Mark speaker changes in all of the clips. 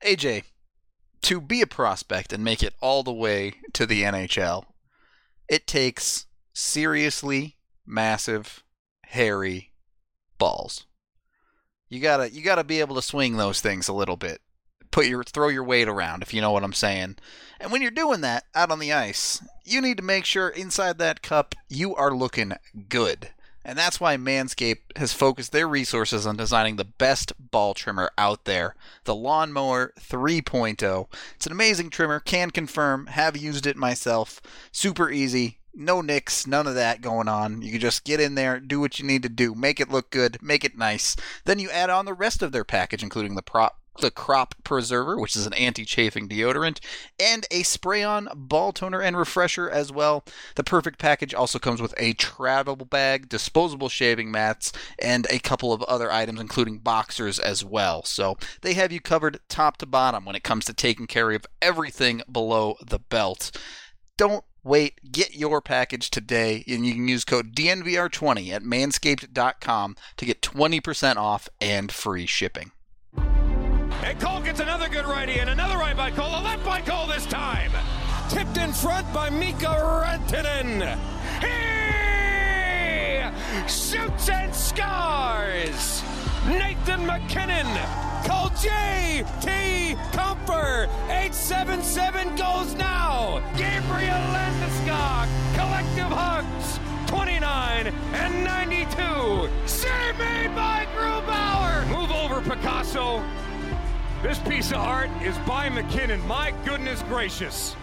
Speaker 1: AJ, to be a prospect and make it all the way to the NHL, it takes seriously massive, hairy balls. You gotta be able to swing those things a little bit. Throw your weight around, if you know what I'm saying. And when you're doing that out on the ice, you need to make sure inside that cup you are looking good. And that's why Manscaped has focused their resources on designing the best ball trimmer out there, the Lawnmower 3.0. It's an amazing trimmer, can confirm, have used it myself. Super easy, no nicks, none of that going on. You can just get in there, do what you need to do, make it look good, make it nice. Then you add on the rest of their package, including the Crop Preserver, which is an anti-chafing deodorant, and a spray-on ball toner and refresher as well. The perfect package also comes with a travel bag, disposable shaving mats, and a couple of other items, including boxers as well. So they have you covered top to bottom when it comes to taking care of everything below the belt. Don't wait. Get your package today, and you can use code DNVR20 at manscaped.com to get 20% off and free shipping.
Speaker 2: And Cole gets another good righty, and another right by Cole, a left by Cole this time. Tipped in front by Mika Rantanen. He shoots and scores. Nathan McKinnon. Cole J.T. Comfer. 877 goes now. Gabriel Landeskog. Collective hugs. 29 and 92. Save made by Grubauer. Move over, Picasso. This piece of art is by McKinnon. My goodness gracious.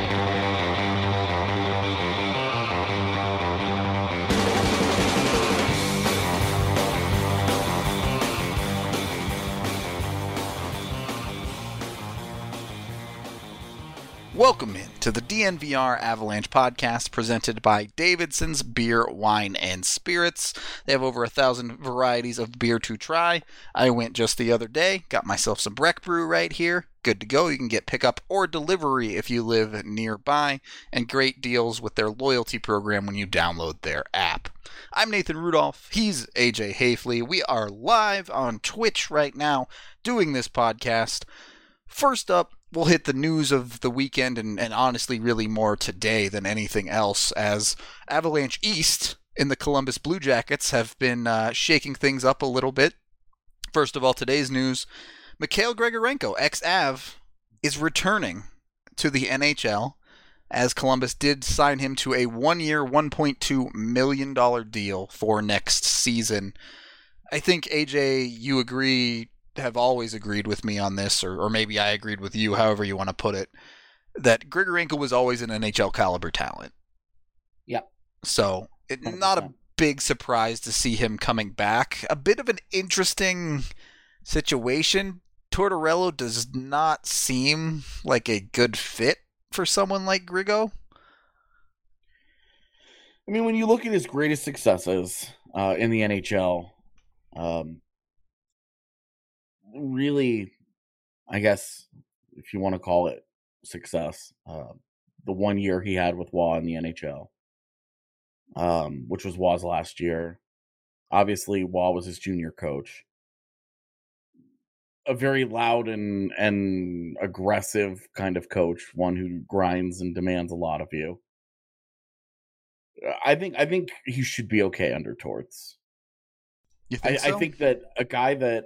Speaker 1: Welcome in to the DNVR Avalanche podcast presented by Davidson's Beer, Wine, and Spirits. They have over 1,000 varieties of beer to try. I went just the other day, got myself some Breck Brew right here. Good to go. You can get pickup or delivery if you live nearby, and great deals with their loyalty program when you download their app. I'm Nathan Rudolph. He's AJ Hafley. We are live on Twitch right now doing this podcast. First up, we'll hit the news of the weekend and honestly really more today than anything else, as Avalanche East in the Columbus Blue Jackets have been shaking things up a little bit. First of all, today's news, Mikhail Grigorenko, ex-Av, is returning to the NHL, as Columbus did sign him to a one-year, $1.2 million deal for next season. I think, AJ, you have always agreed with me on this, or maybe I agreed with you, however you want to put it, that Grigorenko was always an NHL caliber talent.
Speaker 3: Yep.
Speaker 1: So, not a big surprise to see him coming back. A bit of an interesting situation. Tortorella does not seem like a good fit for someone like Grigo.
Speaker 3: I mean, when you look at his greatest successes in the NHL, really, I guess, if you want to call it success, the 1 year he had with Waugh in the NHL, which was Waugh's last year. Obviously, Waugh was his junior coach. A very loud and aggressive kind of coach, one who grinds and demands a lot of you. I think he should be okay under Torts.
Speaker 1: You think so?
Speaker 3: I think that a guy that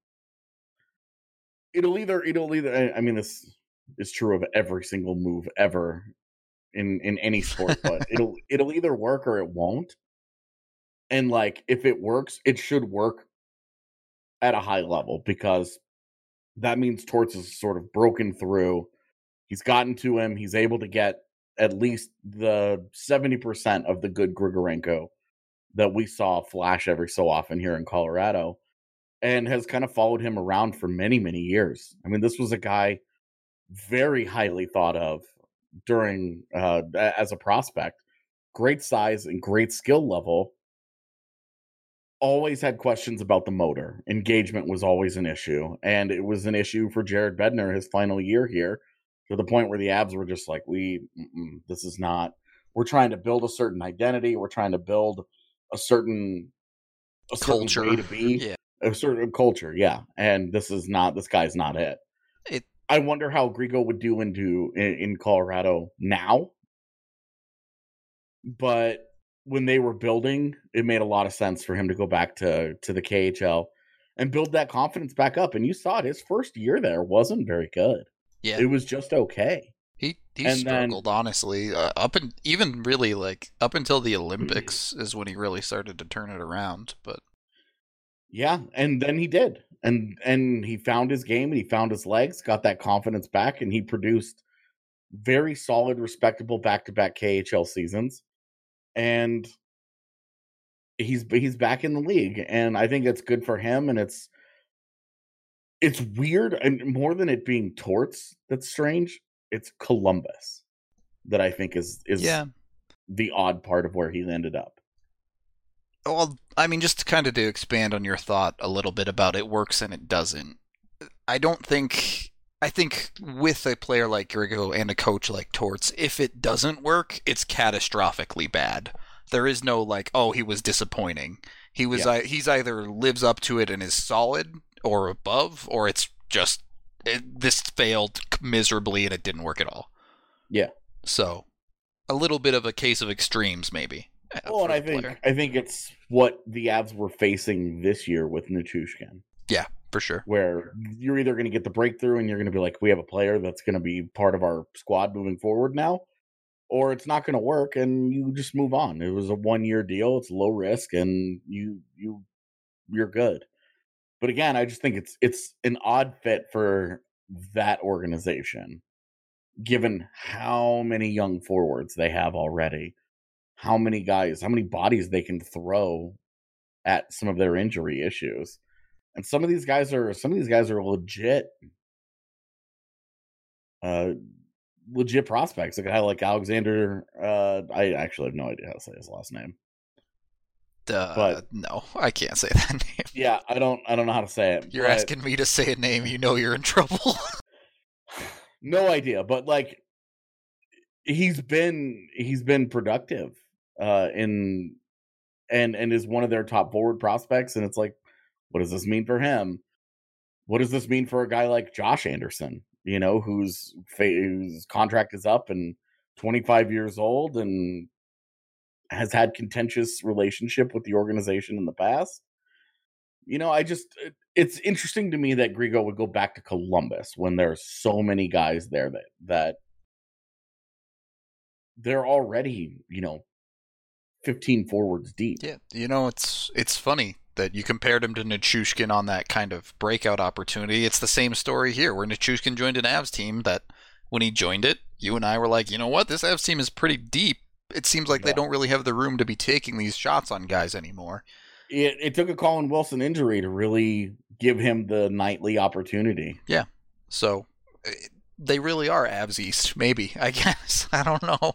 Speaker 3: it'll either. I mean, this is true of every single move ever in any sport, but it'll either work or it won't. And like, if it works, it should work at a high level, because that means Torts is sort of broken through. He's gotten to him. He's able to get at least the 70% of the good Grigorenko that we saw flash every so often here in Colorado, and has kind of followed him around for many, many years. I mean, this was a guy very highly thought of during as a prospect. Great size and great skill level. Always had questions about the motor. Engagement was always an issue. And it was an issue for Jared Bednar his final year here, to the point where the Avs were just like, this is not, we're trying to build a certain identity. We're trying to build a certain
Speaker 1: culture
Speaker 3: way to be.
Speaker 1: Yeah.
Speaker 3: A certain culture. Yeah. And this guy's not it. I wonder how Grigo would do in Colorado now. But when they were building, it made a lot of sense for him to go back to the KHL and build that confidence back up. And you saw it, his first year there wasn't very good.
Speaker 1: Yeah,
Speaker 3: it was just okay.
Speaker 1: he
Speaker 3: And
Speaker 1: struggled honestly even really like up until the Olympics is when he really started to turn it around. But
Speaker 3: yeah, and then he did, and he found his game and he found his legs, got that confidence back, and he produced very solid, respectable back-to-back KHL seasons. And he's back in the league, and I think it's good for him. And it's weird, and more than it being Torts that's strange, it's Columbus that I think is
Speaker 1: yeah,
Speaker 3: the odd part of where he ended up.
Speaker 1: well, I mean, just to kind of to expand on your thought a little bit about it works and it doesn't. I think with a player like Grigo and a coach like Torts, if it doesn't work, it's catastrophically bad. There is no like, oh, he was disappointing. He's either lives up to it and is solid or above, or it's just this failed miserably and it didn't work at all.
Speaker 3: Yeah.
Speaker 1: So a little bit of a case of extremes, maybe.
Speaker 3: Well, and I think it's what the Avs were facing this year with Nichushkin.
Speaker 1: Yeah, for sure.
Speaker 3: Where you're either going to get the breakthrough and you're going to be like, we have a player that's going to be part of our squad moving forward now, or it's not going to work and you just move on. It was a 1-year deal. It's low risk and you're good. But again, I just think it's an odd fit for that organization, given how many young forwards they have already, how many bodies they can throw at some of their injury issues. And some of these guys are legit legit prospects. A guy like Alexander, I actually have no idea how to say his last name. But
Speaker 1: no, I can't say that name.
Speaker 3: Yeah, I don't know how to say it.
Speaker 1: You're asking me to say a name, you know you're in trouble.
Speaker 3: No idea, but like he's been productive and is one of their top forward prospects, and it's like, what does this mean for him? What does this mean for a guy like Josh Anderson, whose contract is up and 25 years old and has had contentious relationship with the organization in the past? It's interesting to me that Grigo would go back to Columbus when there's so many guys there that they're already, 15 forwards deep.
Speaker 1: Yeah, it's funny that you compared him to Nichushkin on that kind of breakout opportunity. It's the same story here, where Nichushkin joined an Avs team that when he joined it, you and I were like, you know what, this Avs team is pretty deep. It seems like they don't really have the room to be taking these shots on guys anymore.
Speaker 3: It took a Colin Wilson injury to really give him the nightly opportunity.
Speaker 1: Yeah, so they really are Avs East, maybe, I guess. I don't know.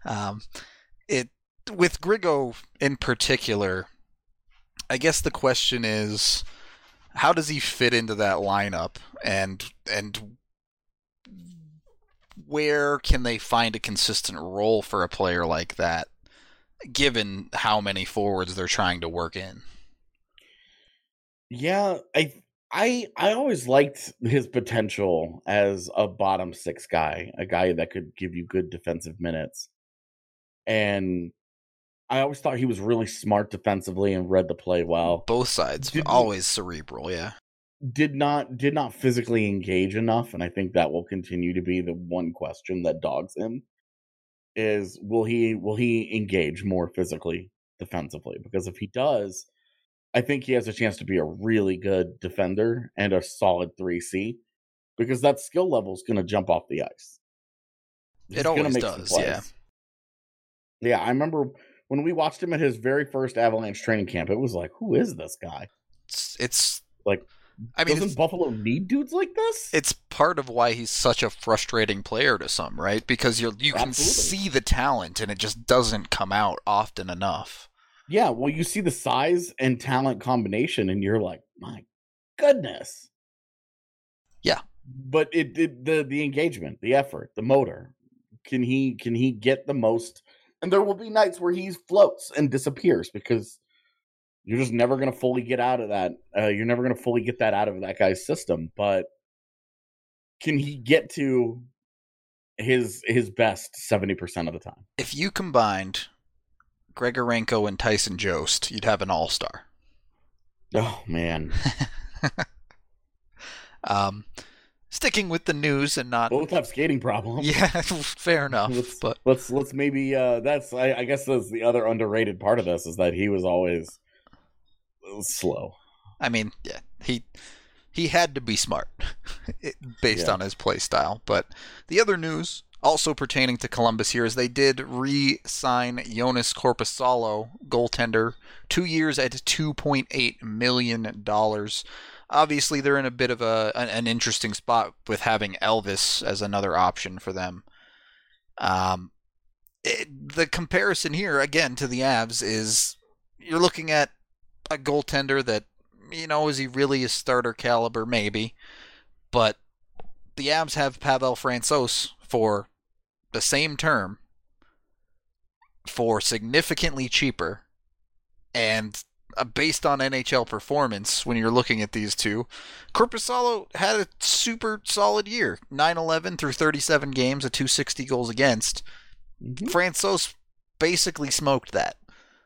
Speaker 1: With Grigo in particular, I guess the question is, how does he fit into that lineup, and where can they find a consistent role for a player like that, given how many forwards they're trying to work in?
Speaker 3: Yeah, I always liked his potential as a bottom six guy, a guy that could give you good defensive minutes. And I always thought he was really smart defensively and read the play well.
Speaker 1: Both sides, always cerebral, yeah.
Speaker 3: Did not physically engage enough, and I think that will continue to be the one question that dogs him. Is will he engage more physically defensively? Because if he does, I think he has a chance to be a really good defender and a solid 3C, because that skill level is going to jump off the ice.
Speaker 1: It always does, yeah.
Speaker 3: Yeah, I remember when we watched him at his very first Avalanche training camp, it was like, who is this guy?
Speaker 1: It's
Speaker 3: like, I mean, doesn't Buffalo need dudes like this?
Speaker 1: It's part of why he's such a frustrating player to some, right? Because you can see the talent and it just doesn't come out often enough.
Speaker 3: Yeah, well, you see the size and talent combination and you're like, my goodness.
Speaker 1: Yeah.
Speaker 3: But the engagement, the effort, the motor, can he get the most? And there will be nights where he floats and disappears because you're just never going to fully get out of that. You're never going to fully get that out of that guy's system. But can he get to his best 70% of the time?
Speaker 1: If you combined Grigorenko and Tyson Jost, you'd have an all-star.
Speaker 3: Oh man.
Speaker 1: Sticking with the news and not
Speaker 3: both have skating problems.
Speaker 1: Yeah, fair enough.
Speaker 3: Let's maybe that's I guess that's the other underrated part of this, is that he was always slow.
Speaker 1: I mean, yeah, he had to be smart based on his play style. But the other news also pertaining to Columbus here is they did re-sign Joonas Korpisalo, goaltender, 2 years at $2.8 million. Obviously, they're in a bit of an interesting spot with having Elvis as another option for them. The comparison here, again, to the Avs is you're looking at a goaltender that, is he really a starter caliber? Maybe. But the Avs have Pavel Francouz for the same term for significantly cheaper, and based on NHL performance, when you're looking at these two, Korpisalo had a super solid year. 9-11 through 37 games, a .260 goals against. Mm-hmm. Francouz basically smoked that.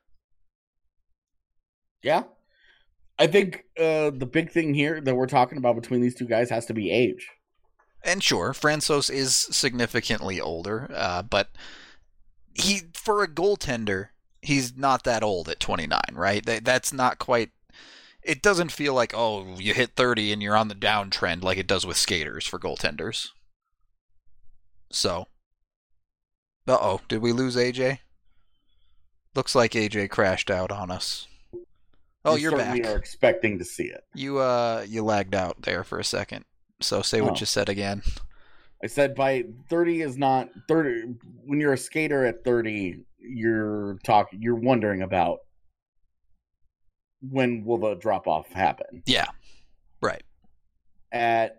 Speaker 3: Yeah. I think the big thing here that we're talking about between these two guys has to be age.
Speaker 1: And sure, Francouz is significantly older, but for a goaltender, he's not that old at 29, right? That's not quite... It doesn't feel like, you hit 30 and you're on the downtrend like it does with skaters for goaltenders. So. Did we lose AJ? Looks like AJ crashed out on us. Oh, you're back.
Speaker 3: We are expecting to see it.
Speaker 1: You lagged out there for a second. So say what you said again.
Speaker 3: I said by 30 is not 30. When you're a skater at 30, you're wondering about when will the drop off happen.
Speaker 1: Yeah, right.
Speaker 3: As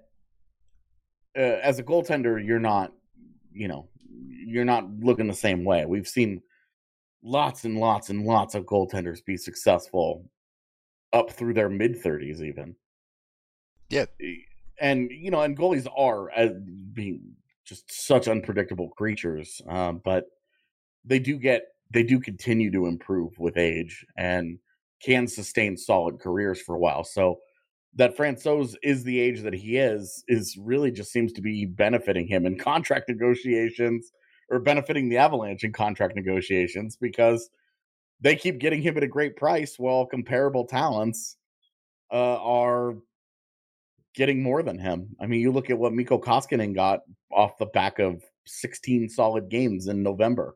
Speaker 3: a goaltender, you're not looking the same way. We've seen lots and lots and lots of goaltenders be successful up through their mid-30s even.
Speaker 1: Yeah.
Speaker 3: And and goalies are being just such unpredictable creatures, but they do continue to improve with age and can sustain solid careers for a while. So that Francouz is the age that he is really just seems to be benefiting him in contract negotiations, or benefiting the Avalanche in contract negotiations, because they keep getting him at a great price while comparable talents are getting more than him. I mean, you look at what Mikko Koskinen got off the back of 16 solid games in November.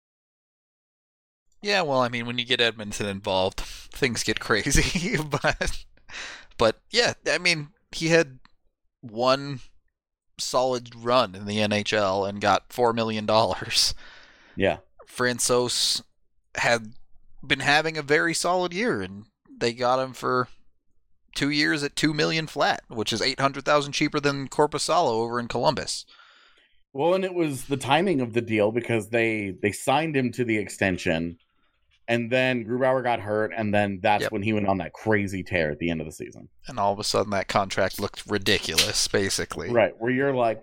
Speaker 1: Yeah, well, I mean, when you get Edmonton involved, things get crazy. But yeah, I mean, he had one solid run in the NHL and got $4 million.
Speaker 3: Yeah.
Speaker 1: Francouz had been having a very solid year, and they got him for 2 years at $2 million flat, which is $800,000 cheaper than Korpisalo over in Columbus.
Speaker 3: Well, and it was the timing of the deal, because they signed him to the extension, and then Grubauer got hurt, and then that's when he went on that crazy tear at the end of the season.
Speaker 1: And all of a sudden, that contract looked ridiculous, basically.
Speaker 3: Right, where you're like,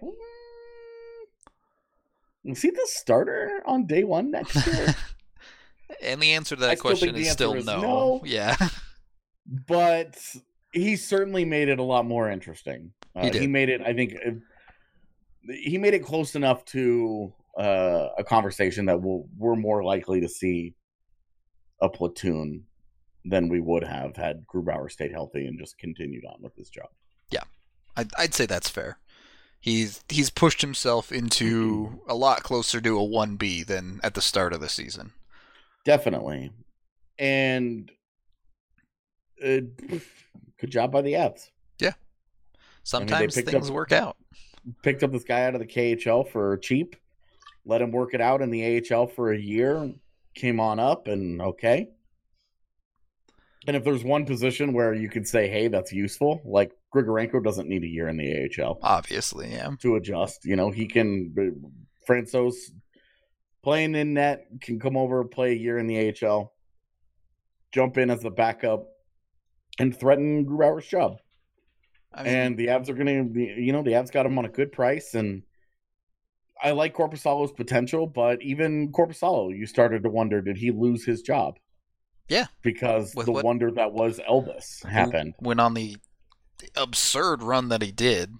Speaker 3: is he the starter on day one next year?
Speaker 1: And the answer to that question is still no. Yeah.
Speaker 3: But he certainly made it a lot more interesting. He made it, I think, he made it close enough to a conversation that we're more likely to see a platoon than we would have had Grubauer stayed healthy and just continued on with his job.
Speaker 1: Yeah, I'd say that's fair. He's pushed himself into a lot closer to a 1B than at the start of the season.
Speaker 3: Definitely. And good job by the Avs.
Speaker 1: Yeah. Sometimes things work out.
Speaker 3: Picked up this guy out of the KHL for cheap, let him work it out in the AHL for a year, came on up, and okay. And if there's one position where you could say, hey, that's useful, like Grigorenko doesn't need a year in the AHL.
Speaker 1: Obviously, yeah.
Speaker 3: To adjust. He can, Francouz playing in net, can come over, play a year in the AHL, jump in as the backup, and threaten Grubauer's job.
Speaker 1: I mean,
Speaker 3: and the Avs are going to be, the Avs got him on a good price, and I like Korpisalo's potential, but even Korpisalo, you started to wonder, did he lose his job?
Speaker 1: Yeah.
Speaker 3: Because the wonder that was Elvis happened.
Speaker 1: Went on the absurd run that he did,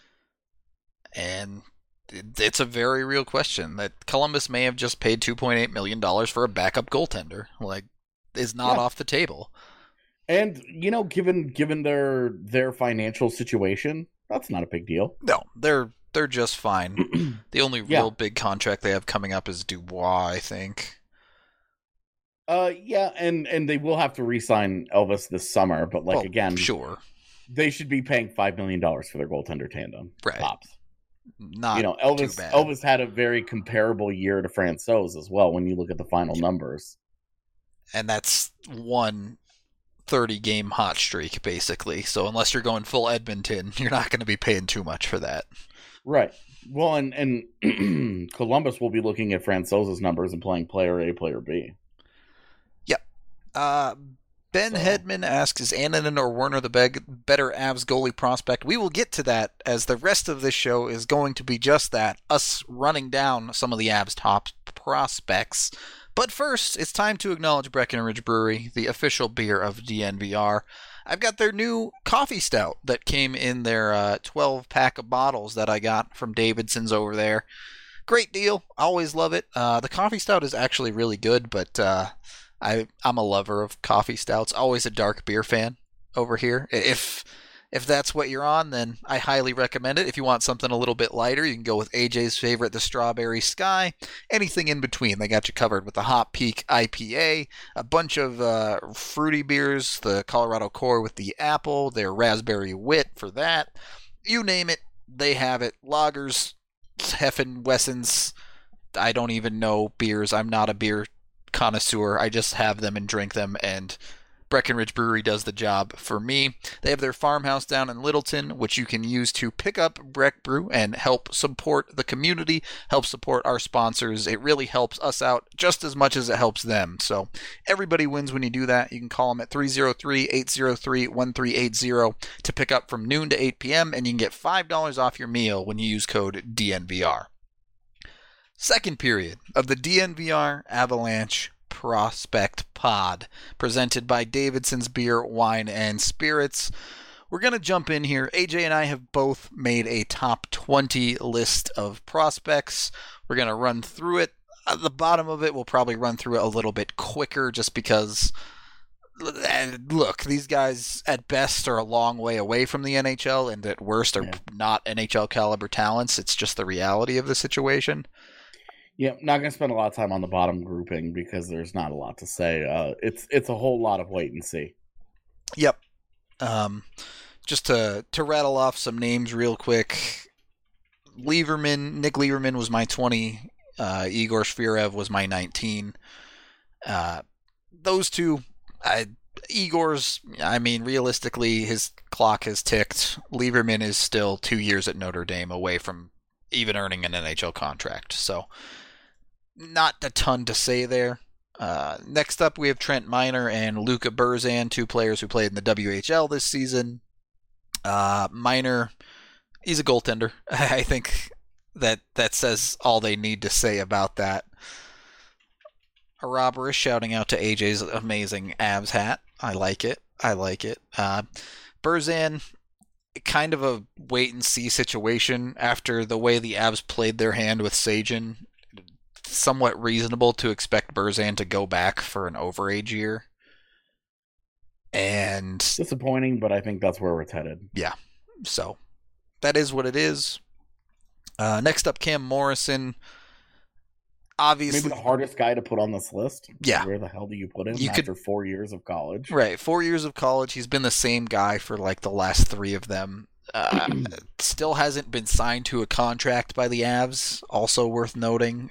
Speaker 1: and it's a very real question that Columbus may have just paid $2.8 million for a backup goaltender. Like, is not off the table.
Speaker 3: And, given their financial situation, that's not a big deal.
Speaker 1: No, they're just fine. The only real big contract they have coming up is Dubois, I think.
Speaker 3: Yeah, and they will have to re-sign Elvis this summer, but again,
Speaker 1: sure,
Speaker 3: they should be paying $5 million for their goaltender tandem.
Speaker 1: Right.
Speaker 3: Tops.
Speaker 1: Not
Speaker 3: Elvis.
Speaker 1: too bad.
Speaker 3: Elvis had a very comparable year to Francouz as well when you look at the final numbers.
Speaker 1: And that's one 30-game hot streak, basically. So unless you're going full Edmonton, you're not going to be paying too much for that.
Speaker 3: Right. Well, and Columbus will be looking at Francouz's numbers and playing player A, player B.
Speaker 1: Yep. Ben Hedman asks, is Annunen or Werner the better Avs goalie prospect? We will get to that, as the rest of this show is going to be just that, us running down some of the Avs' top prospects. But first, it's time to acknowledge Breckenridge Brewery, the official beer of DNVR. I've got their new coffee stout that came in their 12-pack of bottles that I got from Davidson's over there. Great deal. Always love it. The coffee stout is actually really good, but I'm a lover of coffee stouts. Always a dark beer fan over here. If that's what you're on, then I highly recommend it. If you want something a little bit lighter, you can go with AJ's favorite, the Strawberry Sky. Anything in between, they got you covered with the Hop Peak IPA, a bunch of fruity beers, the Colorado Core with the apple, their Raspberry Wit for that. You name it, they have it. Lagers, Heffen, Wessens, I don't even know beers. I'm not a beer connoisseur. I just have them and drink them, and Breckenridge Brewery does the job for me. They have their farmhouse down in Littleton, which you can use to pick up Breck Brew and help support the community, help support our sponsors. It really helps us out just as much as it helps them. So everybody wins when you do that. You can call them at 303-803-1380 to pick up from noon to 8 p.m., and you can get $5 off your meal when you use code DNVR. Second period of the DNVR Avalanche Prospect Pod, presented by Davidson's Beer, Wine, and Spirits. We're going to jump in here. AJ and I have both made a top 20 list of prospects. We're going to run through it. At the bottom of it, we'll probably run through it a little bit quicker just because, look, these guys at best are a long way away from the NHL and at worst are not NHL caliber talents. It's just the reality of the situation.
Speaker 3: Yeah, not going to spend a lot of time on the bottom grouping because there's not a lot to say. It's a whole lot of wait and see.
Speaker 1: Yep. Just to rattle off some names real quick. Nick Lieberman was my 20. Igor Shvirev was my 19. Those two, Igor's, realistically, his clock has ticked. Lieberman is still 2 years at Notre Dame away from even earning an NHL contract. So, not a ton to say there. Next up, we have Trent Miner and Luca Burzan, two players who played in the WHL this season. Miner, he's a goaltender. I think that says all they need to say about that. A robber is shouting out to AJ's amazing Avs hat. I like it. Burzan, kind of a wait-and-see situation after the way the Avs played their hand with Sajin. Somewhat reasonable to expect Burzan to go back for an overage year. And
Speaker 3: disappointing, but I think that's where it's headed.
Speaker 1: Yeah, so that is what it is. Next up, Cam Morrison. Obviously,
Speaker 3: maybe the hardest guy to put on this list.
Speaker 1: Yeah.
Speaker 3: Where the hell do you put him after 4 years of college?
Speaker 1: Right, 4 years of college. He's been the same guy for like the last three of them. Still hasn't been signed to a contract by the Avs. Also worth noting.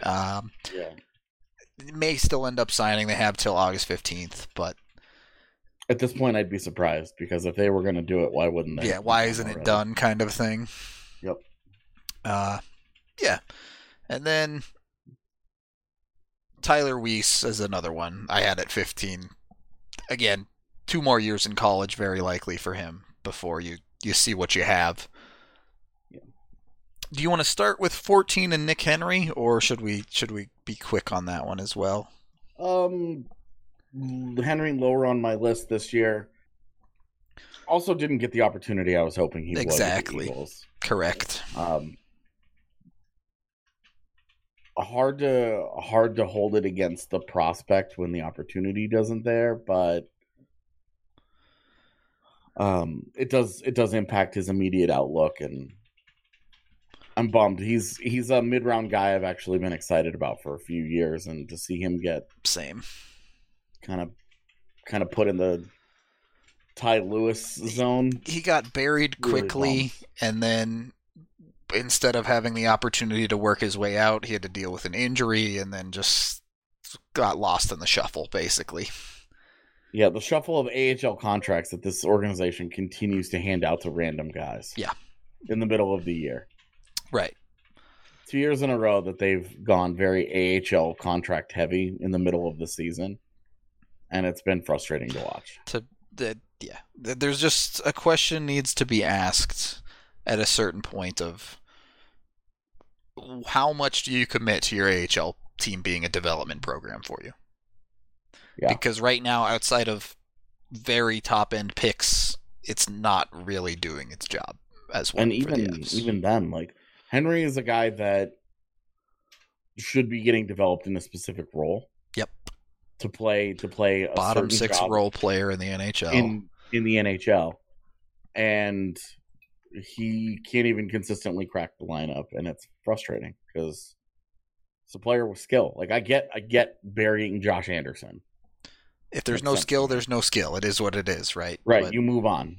Speaker 1: May still end up signing. They have till August 15th, but
Speaker 3: at this point, I'd be surprised because if they were going to do it, why wouldn't they?
Speaker 1: Yeah, why isn't it done? Kind of thing.
Speaker 3: Yep.
Speaker 1: Yeah, and then Tyler Weiss is another one I had at 15. Again, 2 more years in college, very likely for him before you you see what you have.
Speaker 3: Yeah.
Speaker 1: Do you want to start with 14 and Nick Henry, or should we be quick on that one as well?
Speaker 3: Henry lower on my list this year. Also didn't get the opportunity I was hoping he would.
Speaker 1: Exactly.
Speaker 3: With the Eagles.
Speaker 1: Correct.
Speaker 3: Hard to hold it against the prospect when the opportunity doesn't there, but it does impact his immediate outlook, and I'm bummed. He's a mid-round guy I've actually been excited about for a few years, and to see him get
Speaker 1: same
Speaker 3: kind of put in the Ty Lewis zone.
Speaker 1: He got buried quickly, really, and then instead of having the opportunity to work his way out, he had to deal with an injury, and then just got lost in the shuffle, basically.
Speaker 3: Yeah, the shuffle of AHL contracts that this organization continues to hand out to random guys.
Speaker 1: Yeah.
Speaker 3: In the middle of the year.
Speaker 1: Right.
Speaker 3: 2 years in a row that they've gone very AHL contract heavy in the middle of the season, and it's been frustrating to watch.
Speaker 1: There's just a question needs to be asked at a certain point of how much do you commit to your AHL team being a development program for you? Yeah. Because right now, outside of very top-end picks, it's not really doing its job as well.
Speaker 3: And even then, like, Henry is a guy that should be getting developed in a specific role.
Speaker 1: Yep.
Speaker 3: To play a
Speaker 1: bottom six role player in the NHL.
Speaker 3: In the NHL. And he can't even consistently crack the lineup, and it's frustrating because it's a player with skill. Like, I get burying Josh Anderson.
Speaker 1: If there's no skill, there's no skill. It is what it is, right?
Speaker 3: Right, but you move on.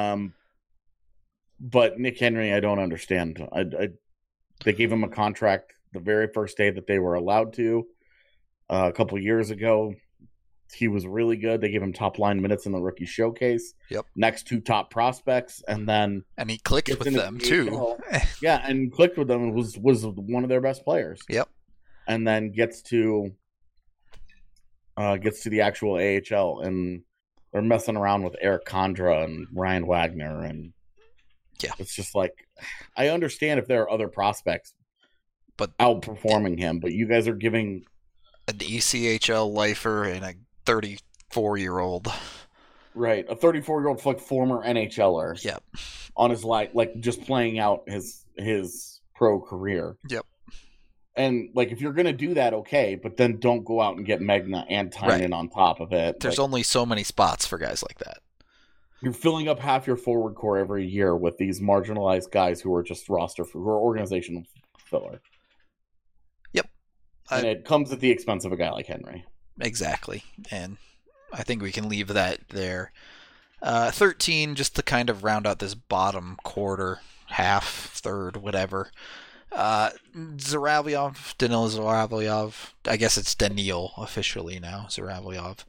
Speaker 3: But Nick Henry, I don't understand. They gave him a contract the very first day that they were allowed to. A couple years ago, he was really good. They gave him top line minutes in the rookie showcase.
Speaker 1: Yep.
Speaker 3: Next two top prospects, and
Speaker 1: he clicked with them too.
Speaker 3: Yeah, and clicked with them and was one of their best players.
Speaker 1: Yep.
Speaker 3: And then gets to the actual AHL, and they're messing around with Eric Condra and Ryan Wagner, and it's just like, I understand if there are other prospects,
Speaker 1: but
Speaker 3: outperforming him, but you guys are giving
Speaker 1: an ECHL lifer and a 34-year-old,
Speaker 3: right? A 34-year-old like former NHLer,
Speaker 1: yep,
Speaker 3: on his like just playing out his pro career,
Speaker 1: yep.
Speaker 3: And, like, if you're going to do that, okay, but then don't go out and get Magna and Tynan on top of it.
Speaker 1: There's only so many spots for guys like that.
Speaker 3: You're filling up half your forward core every year with these marginalized guys who are just who are organizational filler.
Speaker 1: Yep.
Speaker 3: And it comes at the expense of a guy like Henry.
Speaker 1: Exactly. And I think we can leave that there. 13, just to kind of round out this bottom quarter, half, third, whatever. Danil Zhuravlyov, I guess it's Danil officially now, Zhuravlyov,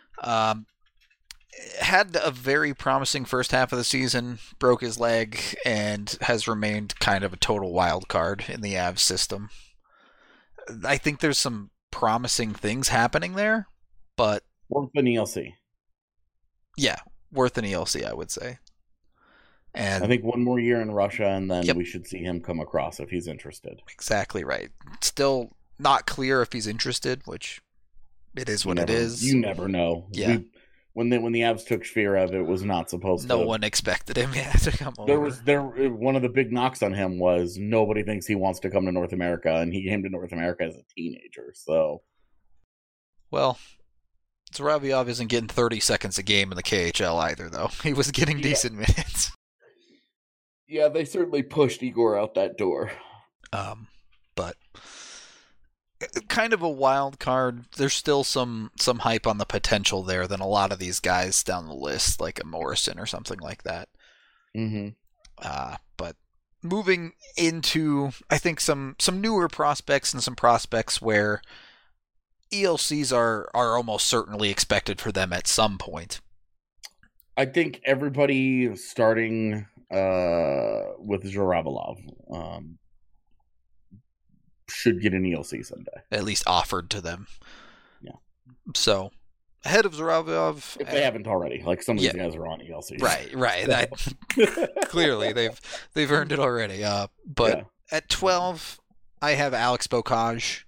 Speaker 1: had a very promising first half of the season, broke his leg, and has remained kind of a total wild card in the Avs system. I think there's some promising things happening there, but
Speaker 3: worth an ELC.
Speaker 1: Yeah, worth an ELC, I would say. And
Speaker 3: I think one more year in Russia, and then we should see him come across if he's interested.
Speaker 1: Exactly right. Still not clear if he's interested, which it is what it is.
Speaker 3: You never know.
Speaker 1: Yeah.
Speaker 3: When the Avs took Shvierev, it was not supposed to.
Speaker 1: No one expected him to come over.
Speaker 3: One of the big knocks on him was nobody thinks he wants to come to North America, and he came to North America as a teenager. So,
Speaker 1: well, Zhuravlyov isn't getting 30 seconds a game in the KHL either, though. He was getting decent minutes.
Speaker 3: Yeah, they certainly pushed Igor out that door.
Speaker 1: But kind of a wild card. There's still some hype on the potential there than a lot of these guys down the list, like a Morrison or something like that.
Speaker 3: Mm-hmm.
Speaker 1: But moving into, I think, some newer prospects and some prospects where ELCs are almost certainly expected for them at some point.
Speaker 3: I think everybody starting with Zhuravlyov should get an ELC someday.
Speaker 1: At least offered to them.
Speaker 3: Yeah.
Speaker 1: So ahead of Zhuravov.
Speaker 3: If they haven't already. Like, some of these guys are on ELC.
Speaker 1: Right. Clearly, they've earned it already. But at 12, I have Alex Bocage.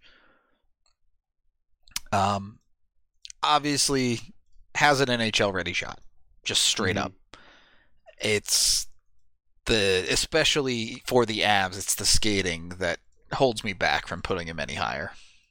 Speaker 1: Obviously has an NHL ready shot, just straight up. It's especially for the Avs, it's the skating that holds me back from putting him any higher.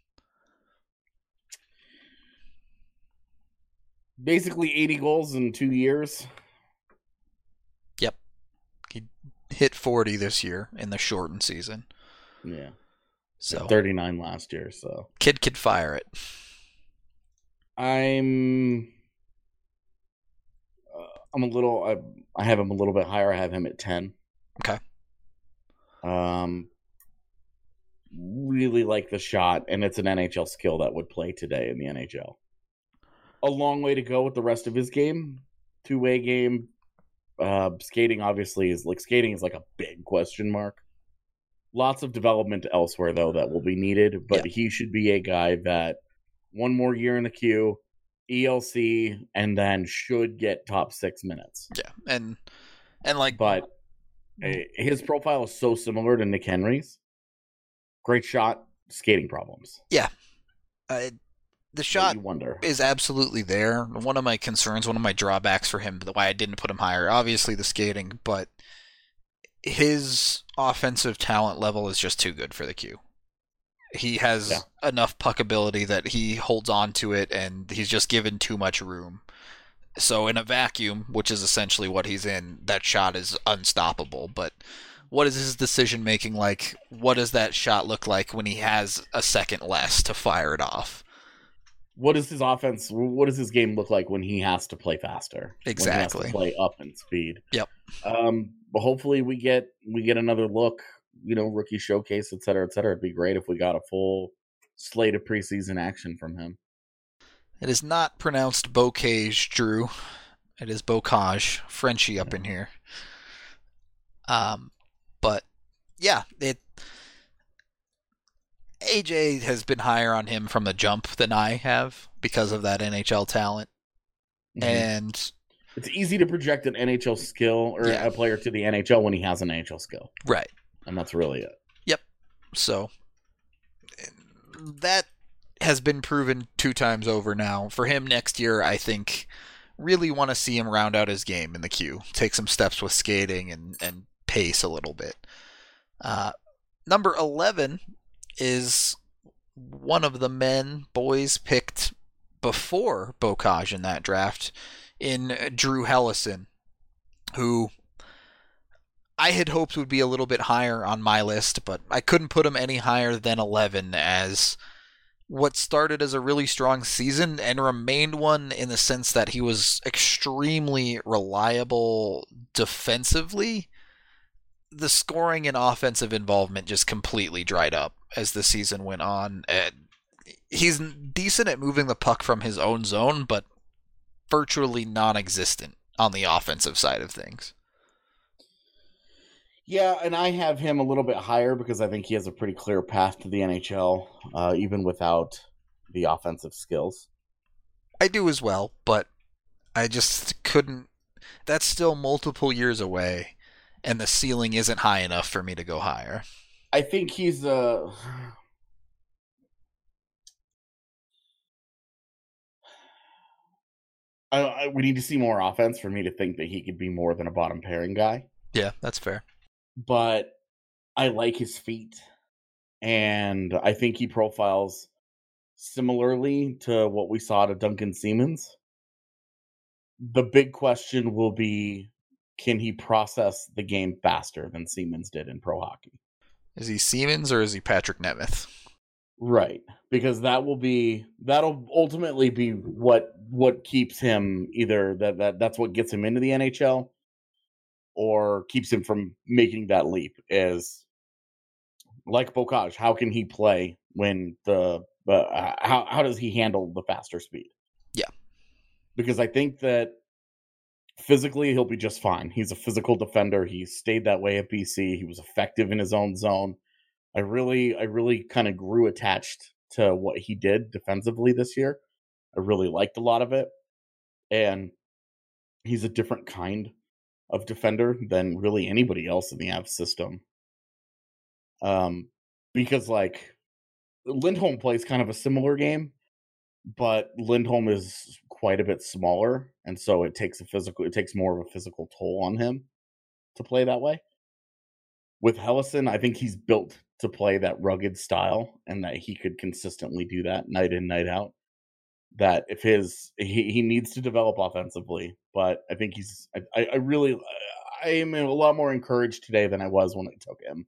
Speaker 3: Basically 80 goals in 2 years.
Speaker 1: Yep. He hit 40 this year in the shortened season.
Speaker 3: Yeah.
Speaker 1: So
Speaker 3: 39 last year, so.
Speaker 1: Kid could fire it.
Speaker 3: I'm a little. I have him a little bit higher. I have him at 10.
Speaker 1: Okay.
Speaker 3: Really like the shot, and it's an NHL skill that would play today in the NHL. A long way to go with the rest of his game. Two-way game. Skating obviously is like a big question mark. Lots of development elsewhere though that will be needed, but he should be a guy that one more year in the queue, ELC, and then should get top 6 minutes.
Speaker 1: Yeah, and like,
Speaker 3: but his profile is so similar to Nick Henry's. Great shot, skating problems.
Speaker 1: Yeah, the shot is absolutely there. One of my concerns, one of my drawbacks for him, why I didn't put him higher, obviously the skating, but his offensive talent level is just too good for the queue. He has enough puck ability that he holds on to it, and he's just given too much room. So in a vacuum, which is essentially what he's in, that shot is unstoppable. But what is his decision making like? What does that shot look like when he has a second less to fire it off?
Speaker 3: What is his offense? What does his game look like when he has to play faster?
Speaker 1: Exactly.
Speaker 3: When he has to play up in speed.
Speaker 1: Yep.
Speaker 3: But hopefully we get another look. Rookie showcase, et cetera, et cetera. It'd be great if we got a full slate of preseason action from him.
Speaker 1: It is not pronounced Bocage, Drew. It is Bocage. Frenchie up in here. But yeah, AJ has been higher on him from the jump than I have because of that NHL talent. Mm-hmm. And
Speaker 3: it's easy to project an NHL skill or a player to the NHL when he has an NHL skill.
Speaker 1: Right.
Speaker 3: And that's really it.
Speaker 1: Yep. So that has been proven 2 times over now. For him next year, I think really want to see him round out his game in the queue. Take some steps with skating and pace a little bit. Number 11 is one of the boys picked before Bocage in that draft in Drew Helleson, who I had hoped would be a little bit higher on my list, but I couldn't put him any higher than 11 as what started as a really strong season and remained one in the sense that he was extremely reliable defensively. The scoring and offensive involvement just completely dried up as the season went on. He's decent at moving the puck from his own zone, but virtually non-existent on the offensive side of things.
Speaker 3: Yeah, and I have him a little bit higher because I think he has a pretty clear path to the NHL, even without the offensive skills.
Speaker 1: I do as well, but I just couldn't. That's still multiple years away, and the ceiling isn't high enough for me to go higher.
Speaker 3: I think he's we need to see more offense for me to think that he could be more than a bottom pairing guy.
Speaker 1: Yeah, that's fair.
Speaker 3: But I like his feet, and I think he profiles similarly to what we saw to Duncan Siemens. The big question will be, can he process the game faster than Siemens did in pro hockey?
Speaker 1: Is he Siemens or is he Patrick Nemeth?
Speaker 3: Right, because that'll ultimately be what keeps him either that's what gets him into the NHL or keeps him from making that leap. Is like Bocage, how can he play when how does he handle the faster speed?
Speaker 1: Yeah,
Speaker 3: because I think that physically he'll be just fine. He's a physical defender. He stayed that way at BC. He was effective in his own zone. I really kind of grew attached to what he did defensively this year. I really liked a lot of it. And he's a different kind of defender than really anybody else in the Avs system. Because like Lindholm plays kind of a similar game, but Lindholm is quite a bit smaller, and so it takes more of a physical toll on him to play that way. With Helleson, I think he's built to play that rugged style, and that he could consistently do that night in, night out. That if he needs to develop offensively, but I think I am a lot more encouraged today than I was when I took him.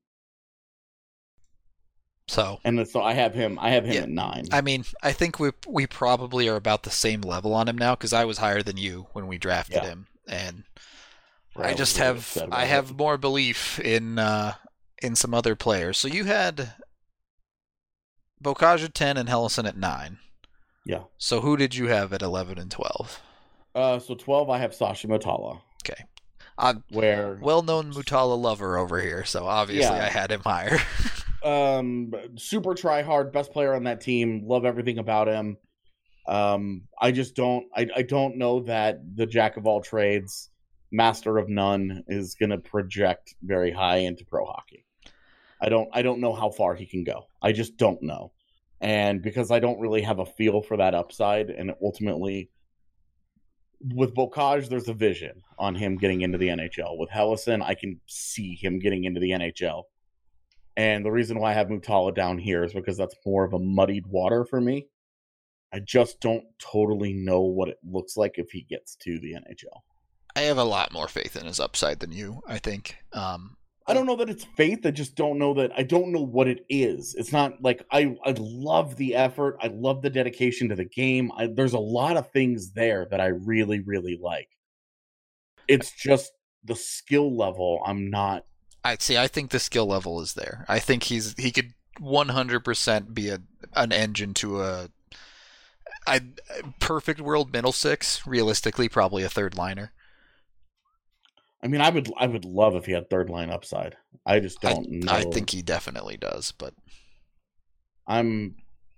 Speaker 1: So
Speaker 3: I have him at 9.
Speaker 1: I mean, I think we probably are about the same level on him now, because I was higher than you when we drafted him, and I just have more belief in some other players. So you had Beaucage at 10 and Helleson at 9.
Speaker 3: Yeah.
Speaker 1: So who did you have at 11 and 12?
Speaker 3: So 12 I have Sasha Mutala.
Speaker 1: Okay. Well-known Mutala lover over here, so obviously I had him higher.
Speaker 3: Super try hard, best player on that team. Love everything about him. I just don't know that the jack of all trades, master of none is going to project very high into pro hockey. I don't know how far he can go. I just don't know. And because I don't really have a feel for that upside, and ultimately with Beaucage, there's a vision on him getting into the NHL. With Helleson, I can see him getting into the NHL. And the reason why I have Mutala down here is because that's more of a muddied water for me. I just don't totally know what it looks like if he gets to the NHL.
Speaker 1: I have a lot more faith in his upside than you, I think.
Speaker 3: I don't know that it's faith. I just don't know what it is. It's not like I love the effort. I love the dedication to the game. There's a lot of things there that I really, really like. It's just the skill level. I'm not.
Speaker 1: I think the skill level is there. I think he could 100% be an engine to a perfect world middle six. Realistically, probably a third liner.
Speaker 3: I mean, I would love if he had third line upside. I just don't know.
Speaker 1: I think he definitely does, but
Speaker 3: I'm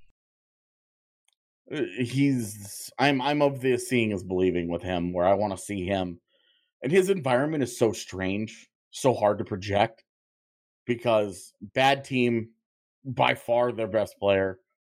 Speaker 3: of the seeing is believing with him, where I want to see him. And his environment is so strange, so hard to project, because bad team, by far their best player,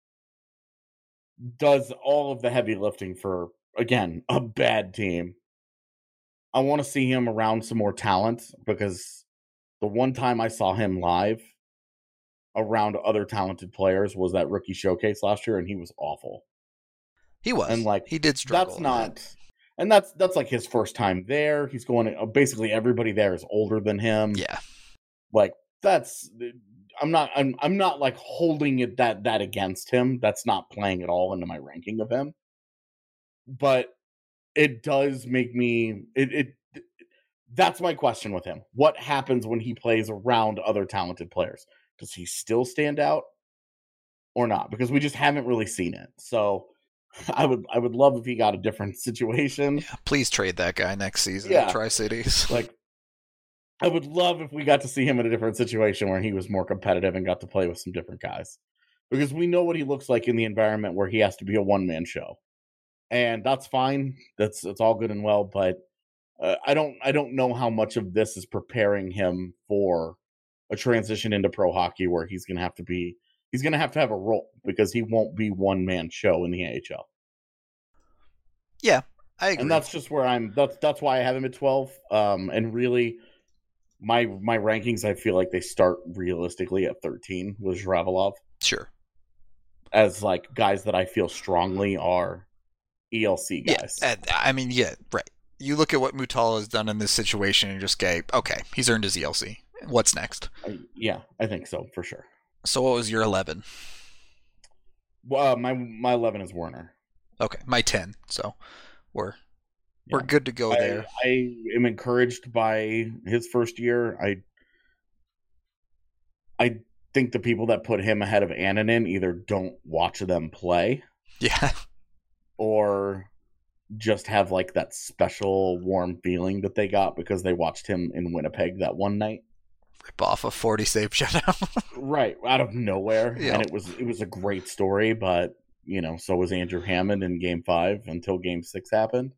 Speaker 3: does all of the heavy lifting for, again, a bad team. I want to see him around some more talent, because the one time I saw him live around other talented players was that rookie showcase last year, and he was awful.
Speaker 1: He was. And he did struggle.
Speaker 3: That's like his first time there. He's going, basically everybody there is older than him.
Speaker 1: Yeah.
Speaker 3: Like I'm not like holding it that against him. That's not playing at all into my ranking of him. But it does make me that's my question with him. What happens when he plays around other talented players? Does he still stand out or not? Because we just haven't really seen it. So I would love if he got a different situation.
Speaker 1: Yeah, please trade that guy next season at Tri-Cities.
Speaker 3: Like, I would love if we got to see him in a different situation where he was more competitive and got to play with some different guys. Because we know what he looks like in the environment where he has to be a one-man show. And that's fine. It's all good and well, but I don't know how much of this is preparing him for a transition into pro hockey, where he's going to have to have a role, because he won't be one-man show in the AHL.
Speaker 1: Yeah, I agree.
Speaker 3: And that's just where that's why I have him at 12. And really, my rankings, I feel like they start realistically at 13 with Zhrabalov.
Speaker 1: Sure.
Speaker 3: As like guys that I feel strongly are ELC guys.
Speaker 1: Yeah, I mean, yeah, right. You look at what Mutala has done in this situation and just go, okay, he's earned his ELC. What's next?
Speaker 3: Yeah, I think so, for sure.
Speaker 1: So what was your 11?
Speaker 3: My 11 is Werner.
Speaker 1: Okay, my 10. So we're good to go there.
Speaker 3: I am encouraged by his first year. I think the people that put him ahead of Annunen either don't watch them play.
Speaker 1: Yeah.
Speaker 3: Or just have like that special warm feeling that they got because they watched him in Winnipeg that one night.
Speaker 1: Rip off a 40 save shutout.
Speaker 3: Right, out of nowhere. Yeah. And it was a great story, but so was Andrew Hammond in Game 5 until Game 6 happened.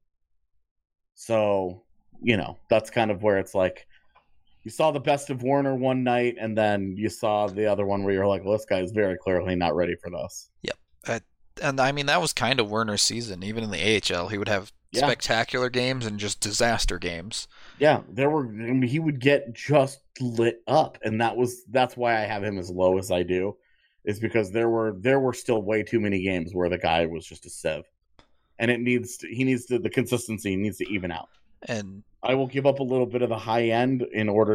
Speaker 3: So, that's kind of where it's like, you saw the best of Warner one night, and then you saw the other one where you're like, well, this guy is very clearly not ready for this.
Speaker 1: Yep. And I mean, that was kind of Werner's season. Even in the AHL, he would have spectacular games and just disaster games.
Speaker 3: Yeah, he would get just lit up, and that's why I have him as low as I do, is because there were still way too many games where the guy was just a sieve, and the consistency needs to even out.
Speaker 1: And
Speaker 3: I will give up a little bit of the high end in order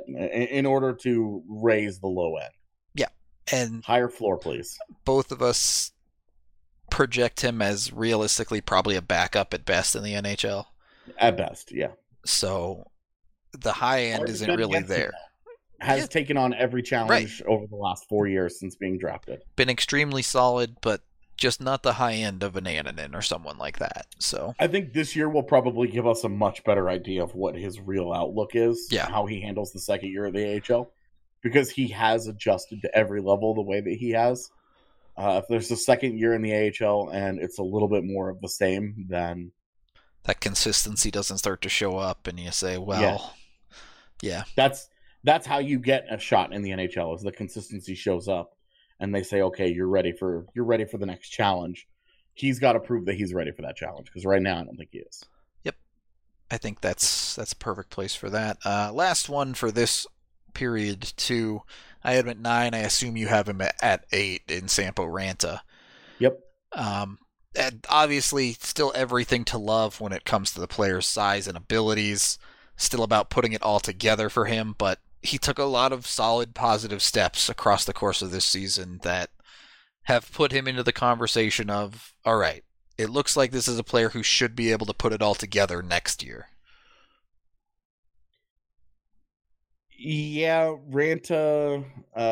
Speaker 3: to raise the low end.
Speaker 1: Yeah, and
Speaker 3: higher floor, please.
Speaker 1: Both of us project him as realistically probably a backup at best in the NHL.
Speaker 3: At best, yeah.
Speaker 1: So the high end isn't really there.
Speaker 3: Has taken on every challenge over the last 4 years since being drafted.
Speaker 1: Been extremely solid, but just not the high end of an Annunen or someone like that. So
Speaker 3: I think this year will probably give us a much better idea of what his real outlook is.
Speaker 1: Yeah.
Speaker 3: How he handles the second year of the AHL. Because he has adjusted to every level the way that he has. If there's a second year in the AHL and it's a little bit more of the same, then
Speaker 1: that consistency doesn't start to show up, and you say, well, yeah.
Speaker 3: That's how you get a shot in the NHL, is the consistency shows up, and they say, okay, you're ready for the next challenge. He's got to prove that he's ready for that challenge, because right now I don't think he is.
Speaker 1: Yep, I think that's a perfect place for that. Last one for this period too. I had him at 9. I assume you have him at 8 in Sampo Ranta.
Speaker 3: Yep.
Speaker 1: And obviously, still everything to love when it comes to the player's size and abilities. Still about putting it all together for him, but he took a lot of solid, positive steps across the course of this season that have put him into the conversation of, all right, it looks like this is a player who should be able to put it all together next year.
Speaker 3: Yeah, Ranta,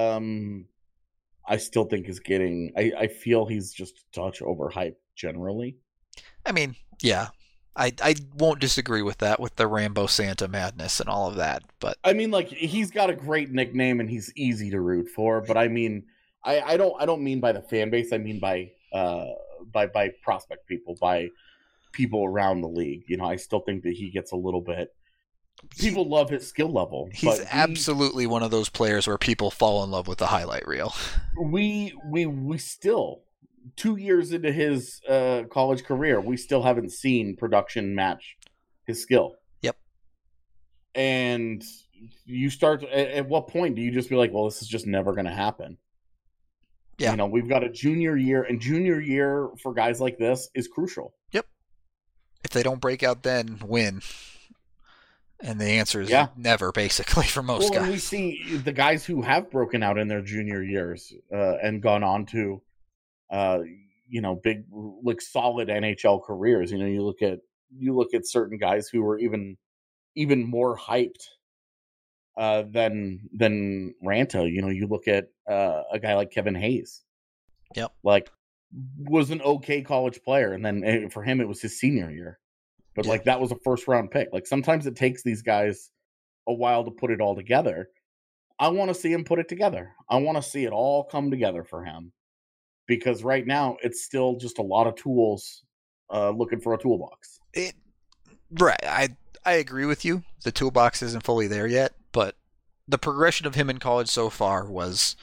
Speaker 3: I still think is getting... I feel he's just a touch overhyped generally.
Speaker 1: I mean, yeah. I won't disagree with that, with the Rambo Santa madness and all of that, but...
Speaker 3: I mean, like, he's got a great nickname and he's easy to root for, but I mean, I don't mean by the fan base, I mean by prospect people, by people around the league. I still think that he gets a little bit... People love his skill level.
Speaker 1: He's absolutely one of those players where people fall in love with the highlight reel.
Speaker 3: We still, 2 years into his college career, we still haven't seen production match his skill.
Speaker 1: Yep.
Speaker 3: And you start, at what point do you just be like, well, this is just never going to happen?
Speaker 1: Yeah.
Speaker 3: We've got a junior year, and junior year for guys like this is crucial.
Speaker 1: Yep. If they don't break out then, win. And the answer is never, basically, for most guys.
Speaker 3: We see the guys who have broken out in their junior years and gone on to, big, like, solid NHL careers. You look at certain guys who were even more hyped than Ranta. You look at a guy like Kevin Hayes.
Speaker 1: Yep.
Speaker 3: Like, was an okay college player, and then for him it was his senior year. But, like, that was a first-round pick. Like, sometimes it takes these guys a while to put it all together. I want to see him put it together. I want to see it all come together for him. Because right now, it's still just a lot of tools looking for a toolbox.
Speaker 1: Right. I agree with you. The toolbox isn't fully there yet. But the progression of him in college so far was...